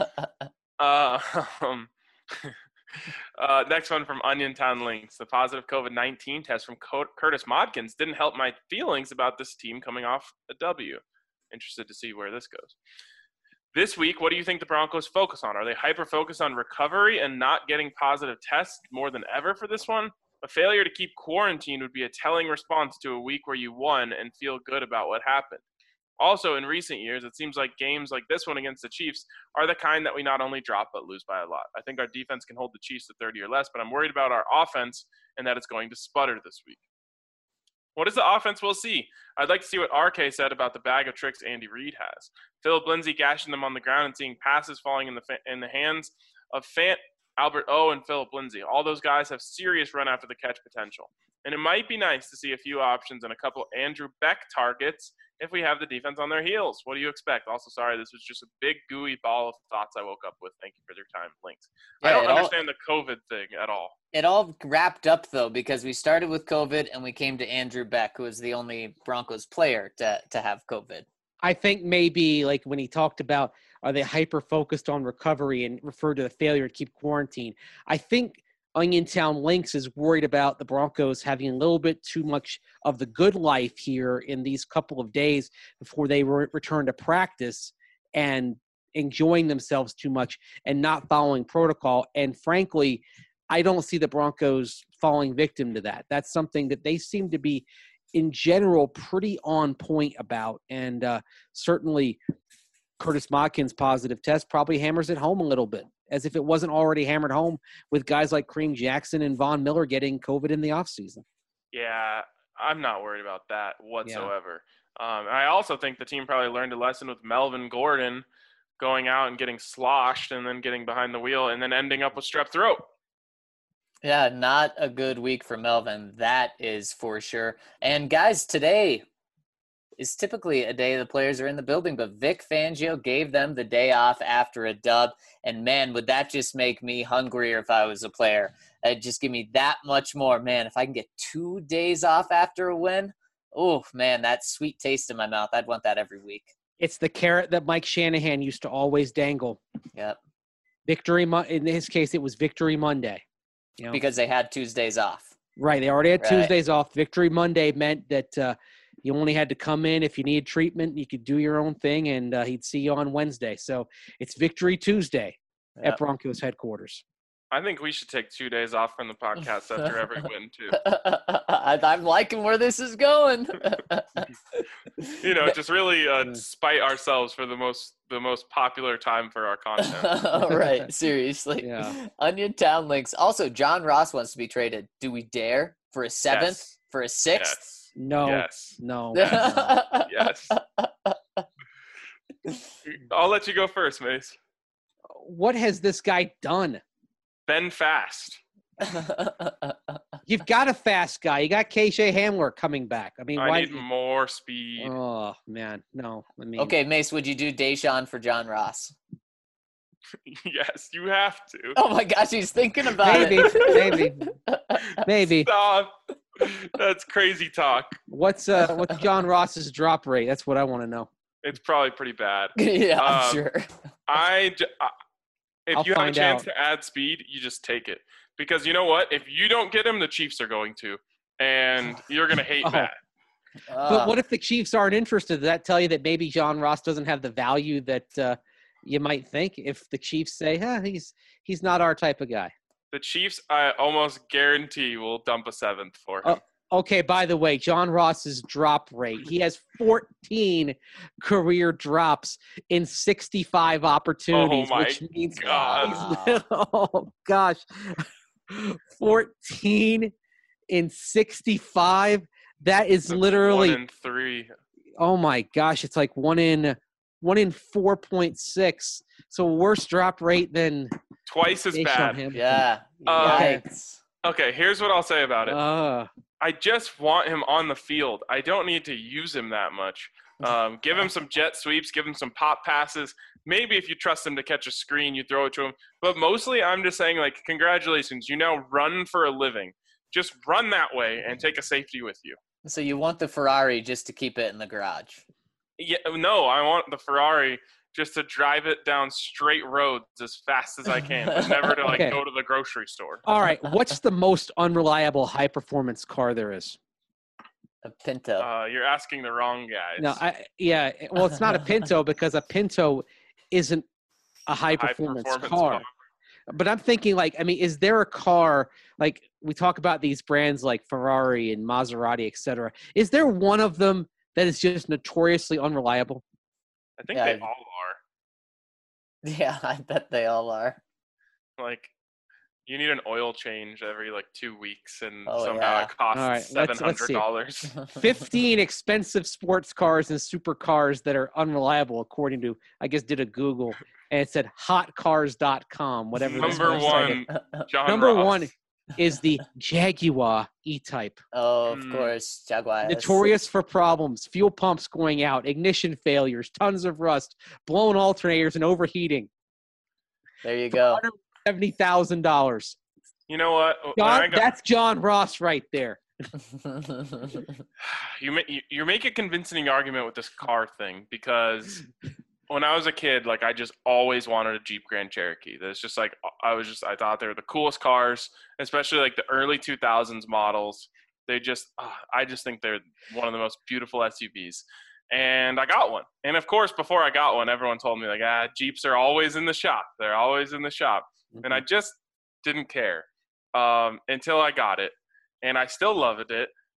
Next one from Onion Town Links. The positive COVID-19 test from Curtis Modkins didn't help my feelings about this team coming off a W. Interested to see where this goes. This week, what do you think the Broncos focus on? Are they hyper-focused on recovery and not getting positive tests more than ever for this one? A failure to keep quarantine would be a telling response to a week where you won and feel good about what happened. Also, in recent years, it seems like games like this one against the Chiefs are the kind that we not only drop but lose by a lot. I think our defense can hold the Chiefs to 30 or less, but I'm worried about our offense and that it's going to sputter this week. What is the offense we'll see? I'd like to see what RK said about the bag of tricks Andy Reid has. Philip Lindsay gashing them on the ground and seeing passes falling in the hands of Fant, Albert O, and Philip Lindsay. All those guys have serious run after the catch potential. And it might be nice to see a few options and a couple Andrew Beck targets if we have the defense on their heels. What do you expect? Also, sorry, this was just a big gooey ball of thoughts I woke up with. Thank you for your time. Links. Yeah, I don't understand the COVID thing at all. It all wrapped up, though, because we started with COVID and we came to Andrew Beck, who was the only Broncos player to have COVID. I think maybe like when he talked about are they hyper-focused on recovery and referred to the failure to keep quarantine, I think Onion Town Links is worried about the Broncos having a little bit too much of the good life here in these couple of days before they return to practice and enjoying themselves too much and not following protocol. And frankly, I don't see the Broncos falling victim to that. That's something that they seem to be in general pretty on point about. And certainly Curtis Modkin's positive test probably hammers it home a little bit, as if it wasn't already hammered home with guys like Kareem Jackson and Von Miller getting COVID in the offseason. Yeah, I'm not worried about that whatsoever. I also think the team probably learned a lesson with Melvin Gordon going out and getting sloshed and then getting behind the wheel and then ending up with strep throat. Yeah, not a good week for Melvin. That is for sure. And guys, today is typically a day the players are in the building, but Vic Fangio gave them the day off after a dub. And man, would that just make me hungrier if I was a player. It'd just give me that much more. Man, if I can get 2 days off after a win, oh man, that sweet taste in my mouth. I'd want that every week. It's the carrot that Mike Shanahan used to always dangle. Yep. In his case, it was Victory Monday. Because they had Tuesdays off. Right. They already had Tuesdays off. Victory Monday meant that you only had to come in if you needed treatment. You could do your own thing, and he'd see you on Wednesday. So it's Victory Tuesday at Broncos headquarters. I think we should take 2 days off from the podcast after every win, too. I'm liking where this is going. Just really spite ourselves for the most popular time for our content. Right, seriously. Yeah. Onion Town links. Also, John Ross wants to be traded. Do we dare? For a 7th? Yes. For a 6th? Yes. No. Yes. No. Yes. I'll let you go first, Mace. What has this guy done? Ben Fast. You've got a fast guy. You got KJ Hamler coming back. I mean, I need more speed. Oh man, no. I mean, Okay, Mace, would you do Deshaun for John Ross? Yes, you have to. Oh my gosh, he's thinking about it. Maybe. Stop. That's crazy talk. What's John Ross's drop rate? That's what I want to know. It's probably pretty bad. Yeah, I'm sure. If you have a chance to add speed, you just take it. Because you know what? If you don't get him, the Chiefs are going to. And you're going to hate that. But what if the Chiefs aren't interested? Does that tell you that maybe John Ross doesn't have the value that you might think if the Chiefs say, he's not our type of guy? The Chiefs, I almost guarantee, will dump a 7th for him. Okay, by the way, John Ross's drop rate. He has 14 career drops in 65 opportunities, which means oh gosh. 14 in 65. That is literally 1 in 3. Oh my gosh, it's like 1 in 4.6. So worse drop rate than twice as bad. Yeah. Yikes. Okay, here's what I'll say about it. I just want him on the field. I don't need to use him that much. Give him some jet sweeps, give him some pop passes. Maybe if you trust him to catch a screen, you throw it to him. But mostly I'm just saying, like, congratulations, you now run for a living. Just run that way and take a safety with you. So you want the Ferrari just to keep it in the garage? Yeah, no, I want the Ferrari just to drive it down straight roads as fast as I can, but never to go to the grocery store. All right, what's the most unreliable high-performance car there is? A Pinto. You're asking the wrong guys. No, well, it's not a Pinto because a Pinto isn't a high-performance car. But I'm thinking, is there a car, like we talk about these brands like Ferrari and Maserati, et cetera. Is there one of them that is just notoriously unreliable? I think they all are. Yeah, I bet they all are. Like, you need an oil change every 2 weeks, and somehow it costs $700. 15 expensive sports cars and supercars that are unreliable, according to, I guess, did a Google, and it said hotcars.com, whatever. Number one, John Number Ross. one is the Jaguar E-Type. Oh, of course, Jaguar. Notorious for problems, fuel pumps going out, ignition failures, tons of rust, blown alternators, and overheating. There you go. $170,000. You know what? That's John Ross right there. You make a convincing argument with this car thing because when I was a kid, I just always wanted a Jeep Grand Cherokee. That's just I thought they were the coolest cars, especially the early 2000s models. I just think they're one of the most beautiful SUVs. And I got one. And of course, before I got one, everyone told me Jeeps are always in the shop. They're always in the shop. Mm-hmm. And I just didn't care until I got it. And I still loved it.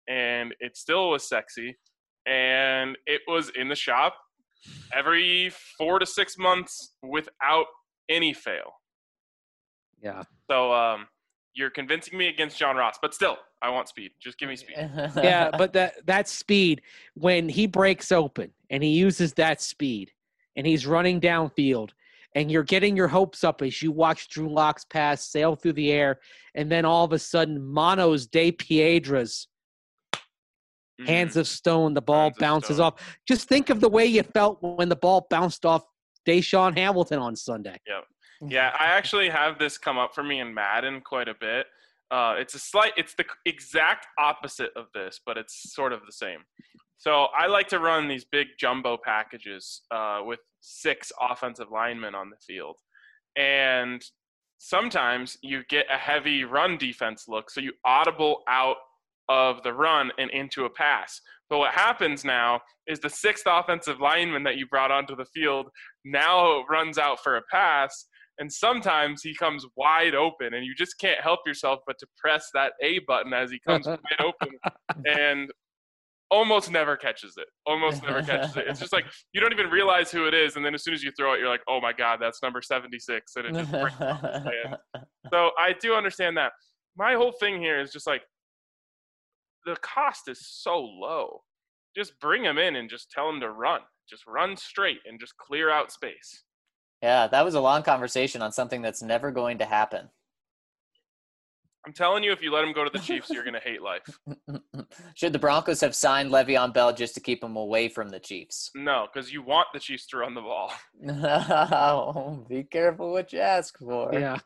and it still was sexy, and it was in the shop every 4 to 6 months without any fail. Yeah. So you're convincing me against John Ross, but still, I want speed. Just give me speed. Yeah, but that speed, when he breaks open and he uses that speed and he's running downfield and you're getting your hopes up as you watch Drew Lock's pass sail through the air, and then all of a sudden Manos de Piedra's hands of stone, the ball bounces off. Just think of the way you felt when the ball bounced off Deshaun Hamilton on Sunday. Yep. Yeah, I actually have this come up for me in Madden quite a bit. It's the exact opposite of this, but it's sort of the same. So I like to run these big jumbo packages with 6 offensive linemen on the field. And sometimes you get a heavy run defense look, so you audible out of the run and into a pass. But what happens now is the 6th offensive lineman that you brought onto the field now runs out for a pass, and sometimes he comes wide open, and you just can't help yourself but to press that A button as he comes wide open, and almost never catches it. It's just like you don't even realize who it is, and then as soon as you throw it, you're like, oh my God, that's number 76, and it just breaks off the stand. So I do understand that. My whole thing here is just like, the cost is so low. Just bring him in and just tell him to run. Just run straight and just clear out space. Yeah, that was a long conversation on something that's never going to happen. I'm telling you, if you let him go to the Chiefs, you're going to hate life. Should the Broncos have signed Le'Veon Bell just to keep him away from the Chiefs? No, because you want the Chiefs to run the ball. No, be careful what you ask for. Yeah.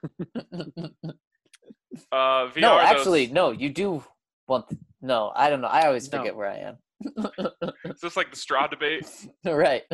VR, no, actually, no, you do want no, I don't know. I always forget where I am. Is this like the straw debate? Right.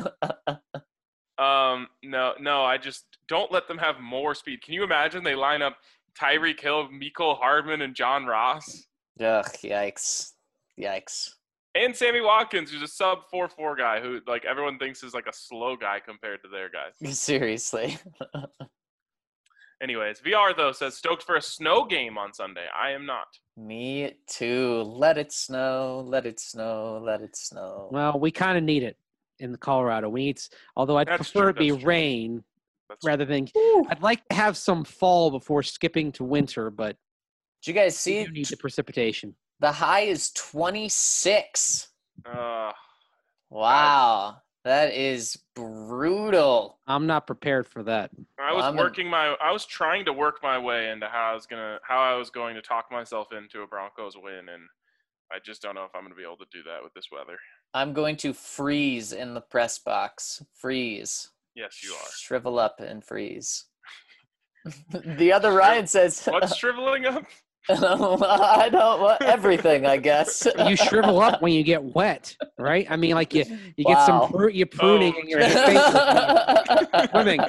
No, I just don't let them have more speed. Can you imagine they line up Tyreek Hill, Mecole Hardman, and John Ross? Ugh, yikes. And Sammy Watkins, who's a sub 4.4 guy who like everyone thinks is like a slow guy compared to their guys. Seriously. Anyways, VR though says stoked for a snow game on Sunday. I am not. Me too. Let it snow. Let it snow. Let it snow. Well, we kind of need it in the Colorado. Although I'd prefer it be rain rather than. I'd like to have some fall before skipping to winter, but did you guys see? You need the precipitation. The high is 26. Wow. God. That is brutal. I'm not prepared for that. I was trying to work my way into how I was going to talk myself into a Broncos win, and I just don't know if I'm going to be able to do that with this weather. I'm going to freeze in the press box. Freeze. Yes, you are. Shrivel up and freeze. The other Ryan says... What's shriveling up? I don't want everything, I guess. You shrivel up when you get wet, right? I mean, like you get some pruning in your face. Swimming.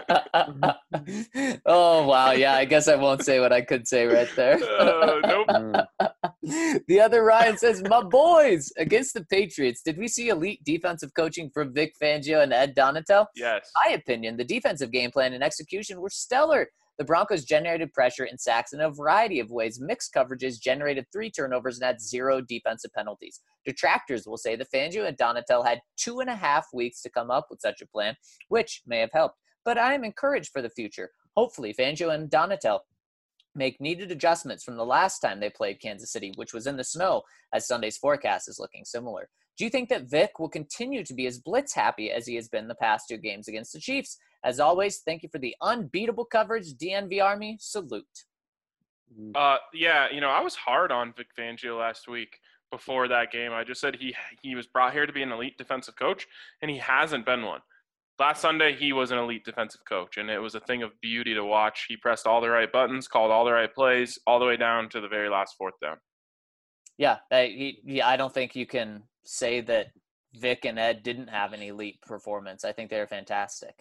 Oh, wow. Yeah, I guess I won't say what I could say right there. Nope. The other Ryan says, my boys, against the Patriots, did we see elite defensive coaching from Vic Fangio and Ed Donatel? Yes. In my opinion, the defensive game plan and execution were stellar. The Broncos generated pressure and sacks in a variety of ways. Mixed coverages generated 3 turnovers and had 0 defensive penalties. Detractors will say that Fangio and Donatel had 2.5 weeks to come up with such a plan, which may have helped. But I am encouraged for the future. Hopefully, Fangio and Donatel make needed adjustments from the last time they played Kansas City, which was in the snow, as Sunday's forecast is looking similar. Do you think that Vic will continue to be as blitz happy as he has been the past 2 games against the Chiefs? As always, thank you for the unbeatable coverage, DNV Army. Salute. Yeah, I was hard on Vic Fangio last week before that game. I just said he was brought here to be an elite defensive coach, and he hasn't been one. Last Sunday, he was an elite defensive coach, and it was a thing of beauty to watch. He pressed all the right buttons, called all the right plays, all the way down to the very last 4th down. Yeah, I don't think you can say that Vic and Ed didn't have an elite performance. I think they're fantastic.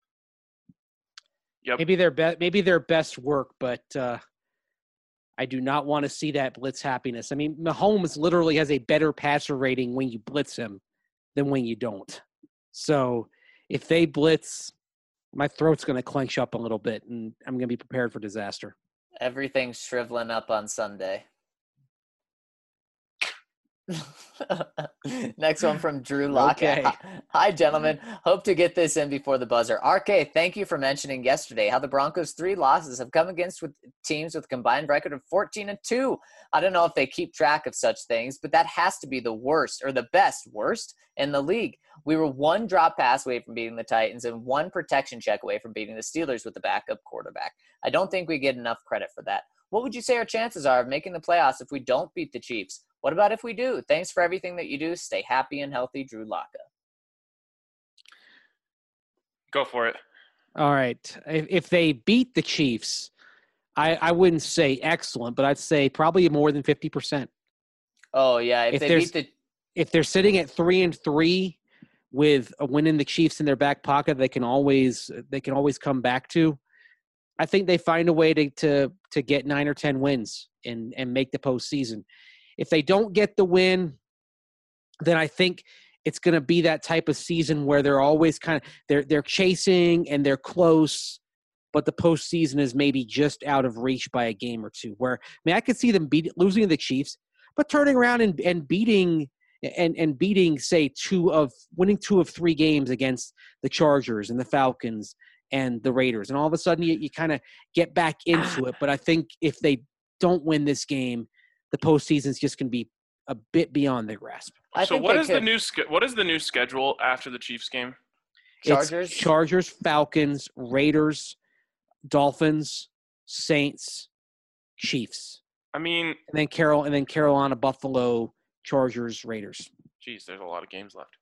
Yep. Maybe their best work, but I do not want to see that blitz happiness. I mean, Mahomes literally has a better passer rating when you blitz him than when you don't. So if they blitz, my throat's going to clench up a little bit, and I'm going to be prepared for disaster. Everything's shriveling up on Sunday. Next one from Drew Lockett. Okay. Hi, gentlemen. Hope to get this in before the buzzer. RK, thank you for mentioning yesterday how the Broncos' 3 losses have come against with teams with a combined record of 14-2. I don't know if they keep track of such things, but that has to be the worst or the worst in the league. We were 1 drop pass away from beating the Titans and 1 protection check away from beating the Steelers with the backup quarterback. I don't think we get enough credit for that. What would you say our chances are of making the playoffs if we don't beat the Chiefs? What about if we do? Thanks for everything that you do. Stay happy and healthy, Drew Locka. Go for it. All right. If they beat the Chiefs, I wouldn't say excellent, but I'd say probably more than 50%. Oh, yeah. If they're sitting at 3-3 with a win in the Chiefs in their back pocket, they can always come back to. I think they find a way to get 9 or 10 wins and make the postseason. If they don't get the win, then I think it's going to be that type of season where they're always they're chasing and they're close, but the postseason is maybe just out of reach by a game or two. Where I could see them losing to the Chiefs, but turning around and beating say winning 2 of 3 games against the Chargers and the Falcons and the Raiders, and all of a sudden you kind of get back into it. But I think if they don't win this game, the postseason is just going to be a bit beyond their grasp. So what is the new schedule after the Chiefs game? Chargers, Falcons, Raiders, Dolphins, Saints, Chiefs. I mean, and then Carolina, Buffalo, Chargers, Raiders. Geez, there's a lot of games left.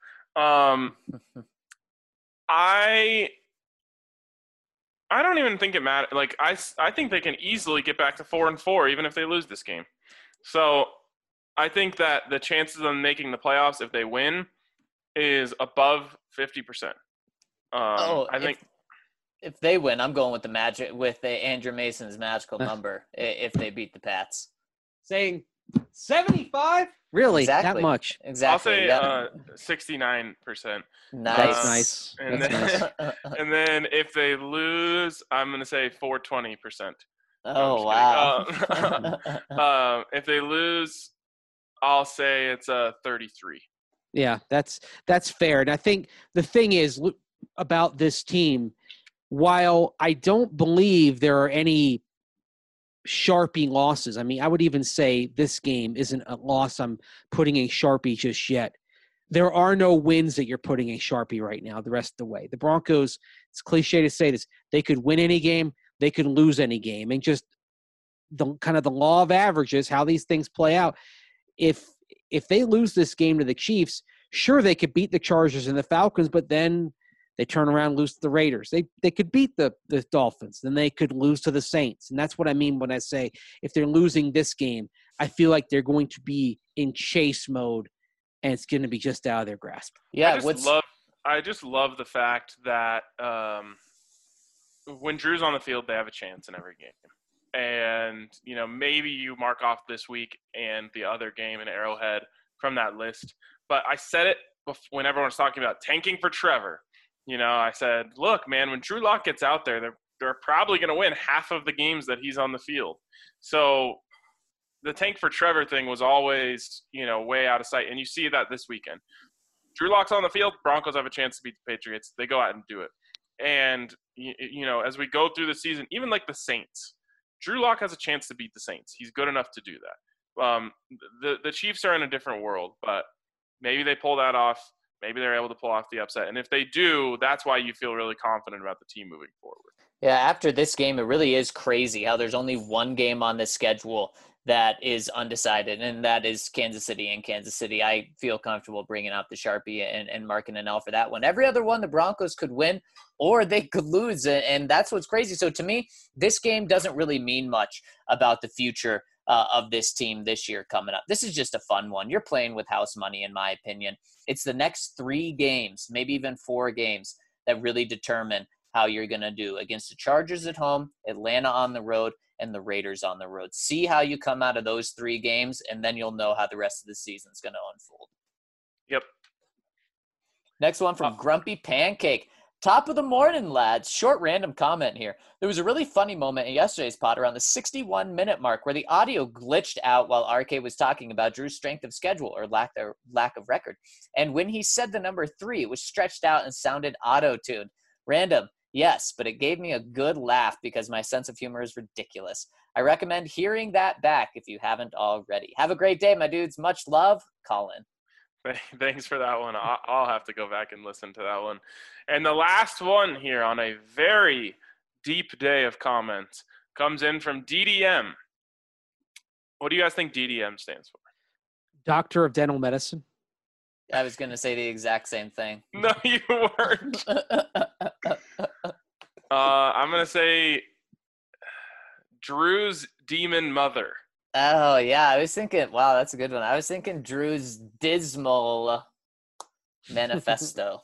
I don't even think it matters. Like I think they can easily get back to 4-4 even if they lose this game. So I think that the chances of them making the playoffs if they win is above 50%. I think if they win, I'm going with the Andrew Mason's magical number if they beat the Pats. Saying 75? Really? Exactly. That much? Exactly. I'll say 69%. Nice. That's nice. And then if they lose, I'm going to say 420%. Oh, wow. If they lose, I'll say it's a 33. Yeah, that's fair. And I think the thing is about this team, while I don't believe there are any Sharpie losses, I mean, I would even say this game isn't a loss I'm putting a Sharpie just yet. There are no wins that you're putting a Sharpie right now the rest of the way. The Broncos, it's cliche to say this, they could win any game, they could lose any game. And just the kind of the law of averages, how these things play out. If they lose this game to the Chiefs, sure, they could beat the Chargers and the Falcons, but then they turn around and lose to the Raiders. They could beat the Dolphins. Then they could lose to the Saints. And that's what I mean when I say if they're losing this game, I feel like they're going to be in chase mode, and it's going to be just out of their grasp. Yeah, I just love the fact that when Drew's on the field, they have a chance in every game. And, maybe you mark off this week and the other game in Arrowhead from that list. But I said it when everyone was talking about tanking for Trevor. I said, look, man, when Drew Lock gets out there, they're probably going to win half of the games that he's on the field. So the tank for Trevor thing was always, way out of sight. And you see that this weekend. Drew Lock's on the field, Broncos have a chance to beat the Patriots. They go out and do it. And, as we go through the season, even like the Saints, Drew Lock has a chance to beat the Saints. He's good enough to do that. The Chiefs are in a different world, but maybe they pull that off. Maybe they're able to pull off the upset. And if they do, that's why you feel really confident about the team moving forward. Yeah, after this game, it really is crazy how there's only one game on the schedule that is undecided, and that is Kansas City. And Kansas City, I feel comfortable bringing out the Sharpie and marking an L for that one. Every other one, the Broncos could win or they could lose, and that's what's crazy. So to me, this game doesn't really mean much about the future of this team this year coming up. This is just a fun one. You're playing with house money, in my opinion. It's the next 3 games, maybe even 4 games, that really determine how you're going to do against the Chargers at home, Atlanta on the road, and the Raiders on the road. See how you come out of those 3 games, and then you'll know how the rest of the season is going to unfold. Yep. Next one from Grumpy Pancake. Top of the morning, lads. Short random comment here. There was a really funny moment in yesterday's pod around the 61-minute mark where the audio glitched out while RK was talking about Drew's strength of schedule or lack of record. And when he said the number 3, it was stretched out and sounded auto-tuned. Random, yes, but it gave me a good laugh because my sense of humor is ridiculous. I recommend hearing that back if you haven't already. Have a great day, my dudes. Much love, Colin. Thanks for that one. I'll have to go back and listen to that one. And the last one here on a very deep day of comments comes in from DDM. What do you guys think DDM stands for? Doctor of Dental Medicine. I was going to say the exact same thing. No, you weren't. I'm going to say Drew's Demon Mother. Oh, yeah. I was thinking, wow, that's a good one. I was thinking Drew's Dismal Manifesto.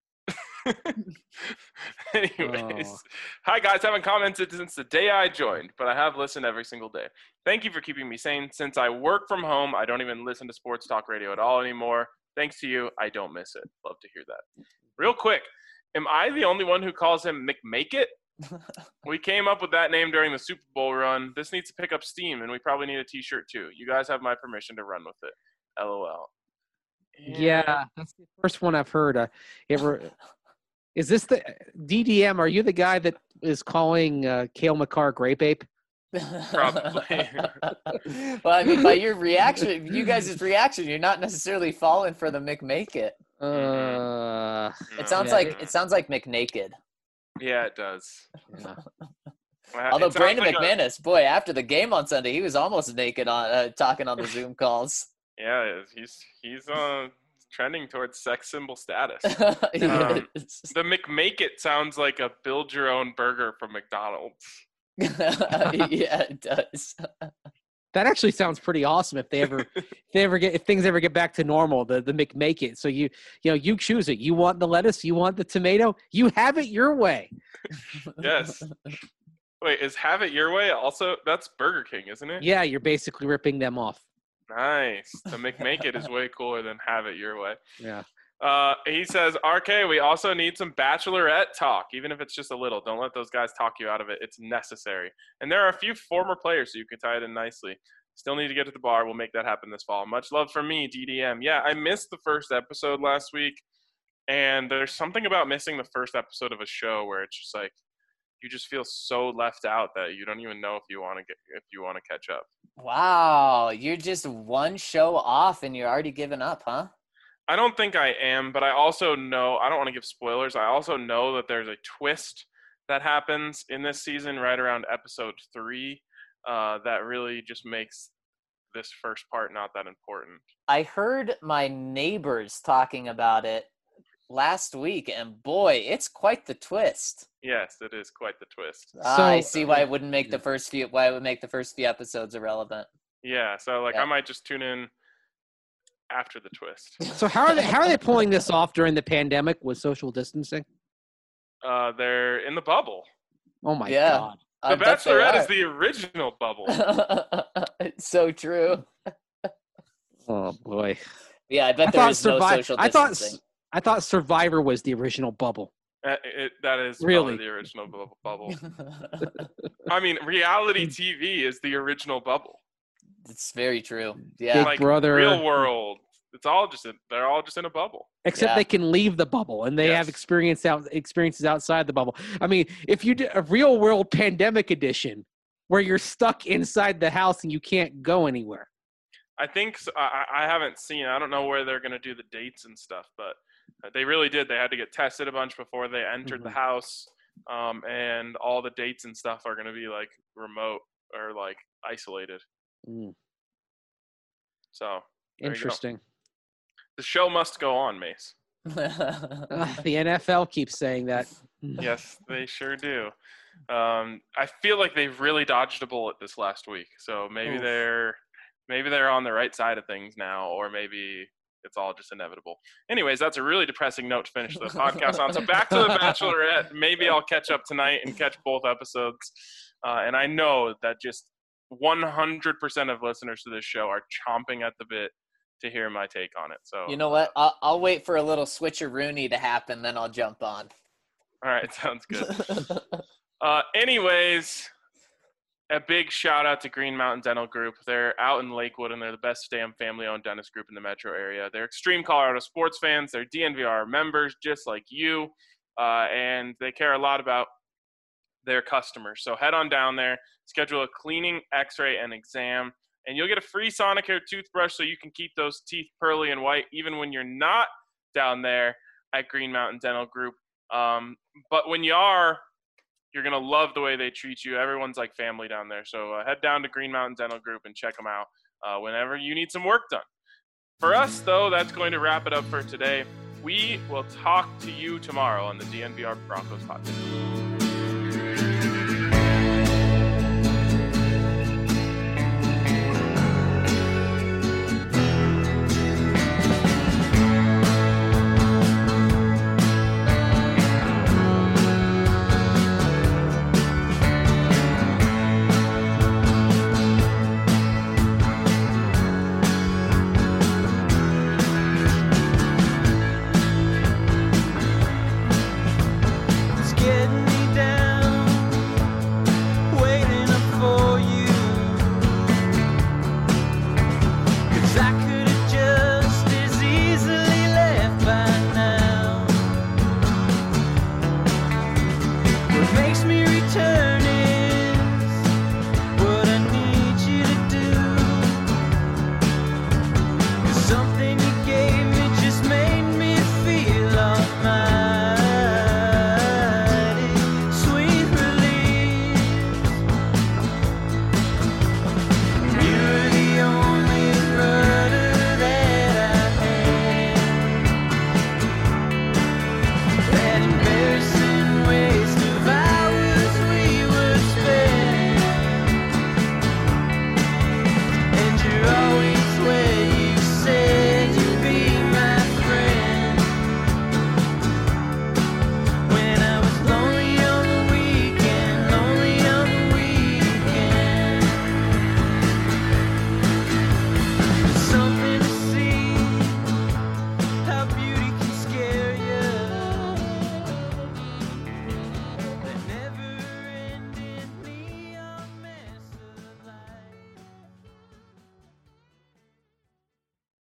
Anyways, Hi guys, haven't commented since the day I joined, but I have listened every single day. Thank you for keeping me sane. Since I work from home, I don't even listen to sports talk radio at all anymore. Thanks to you, I don't miss it. Love to hear that. Real quick, am I the only one who calls him McMake-It? We came up with that name during the Super Bowl run. This needs to pick up steam, and we probably need a t-shirt too. You guys have my permission to run with it. LOL. Yeah, that's the first one I've heard. Is this the DDM? Are you the guy that is calling Cale Makar Grape Ape? Probably. Well, I mean, by your reaction, you guys' reaction, you're not necessarily falling for the McMake-It. It sounds like McNaked. Yeah, it does. Yeah. Although Brandon McManus, boy, after the game on Sunday, he was almost naked on talking on the Zoom calls. Yeah, he's trending towards sex symbol status. Yes. The McMake-It sounds like a build your own burger from McDonald's. Yeah, it does. That actually sounds pretty awesome if things ever get back to normal, the McMake-It. So you choose it. You want the lettuce, you want the tomato, you have it your way. Yes. Wait, is have it your way also? That's Burger King, isn't it? Yeah, you're basically ripping them off. Nice. The McMake-It is way cooler than have it your way. Yeah. He says, RK, we also need some bachelorette talk, even if it's just a little. Don't let those guys talk you out of it. It's necessary. And there are a few former players, so you can tie it in nicely. Still need to get to the bar. We'll make that happen this fall. Much love from me, DDM. Yeah, I missed the first episode last week, and there's something about missing the first episode of a show where it's just like you just feel so left out that you don't even know if you want to catch up. Wow, you're just one show off and you're already giving up, huh? I don't think I am, but I also know, I don't want to give spoilers. I also know that there's a twist that happens in this season right around episode 3 that really just makes this first part not that important. I heard my neighbors talking about it last week, and boy, it's quite the twist. Yes, it is quite the twist. I see why it wouldn't make the first few episodes irrelevant. Yeah, so I might just tune in after the twist. So how are they pulling this off during the pandemic with social distancing? They're in the bubble. Oh my God. The Bachelorette is the original bubble. It's so true. Oh boy. Yeah, I bet there is no social distancing. I thought Survivor was the original bubble. That is really the original bubble. I mean, reality TV is the original bubble. It's very true. Yeah, Big Brother, real world. They're all just in a bubble. Except they can leave the bubble and they have experiences outside the bubble. I mean, if you did a real world pandemic edition where you're stuck inside the house and you can't go anywhere. I think I haven't seen. I don't know where they're going to do the dates and stuff, but they really did. They had to get tested a bunch before they entered the house, and all the dates and stuff are going to be like remote or like isolated. So interesting. The show must go on, Mace. The NFL keeps saying that. Yes, they sure do. I feel like they've really dodged a bullet this last week. So maybe they're on the right side of things now, or maybe it's all just inevitable. Anyways, that's a really depressing note to finish the podcast on. So back to The Bachelorette. Maybe I'll catch up tonight and catch both episodes. And I know that just 100% of listeners to this show are chomping at the bit to hear my take on it. So you know what? I'll wait for a little switcheroony to happen, then I'll jump on. All right, sounds good. Anyways, a big shout out to Green Mountain Dental Group. They're out in Lakewood, and they're the best damn family-owned dentist group in the metro area. They're extreme Colorado sports fans. They're DNVR members, just like you, and they care a lot about their customers. So head on down there, schedule a cleaning, x-ray, and exam, and you'll get a free Sonicare toothbrush so you can keep those teeth pearly and white even when you're not down there at Green Mountain Dental Group. But when you are, you're going to love the way they treat you. Everyone's like family down there. So head down to Green Mountain Dental Group and check them out whenever you need some work done. For us, though, that's going to wrap it up for today. We will talk to you tomorrow on the DNVR Broncos Hot Take. Getting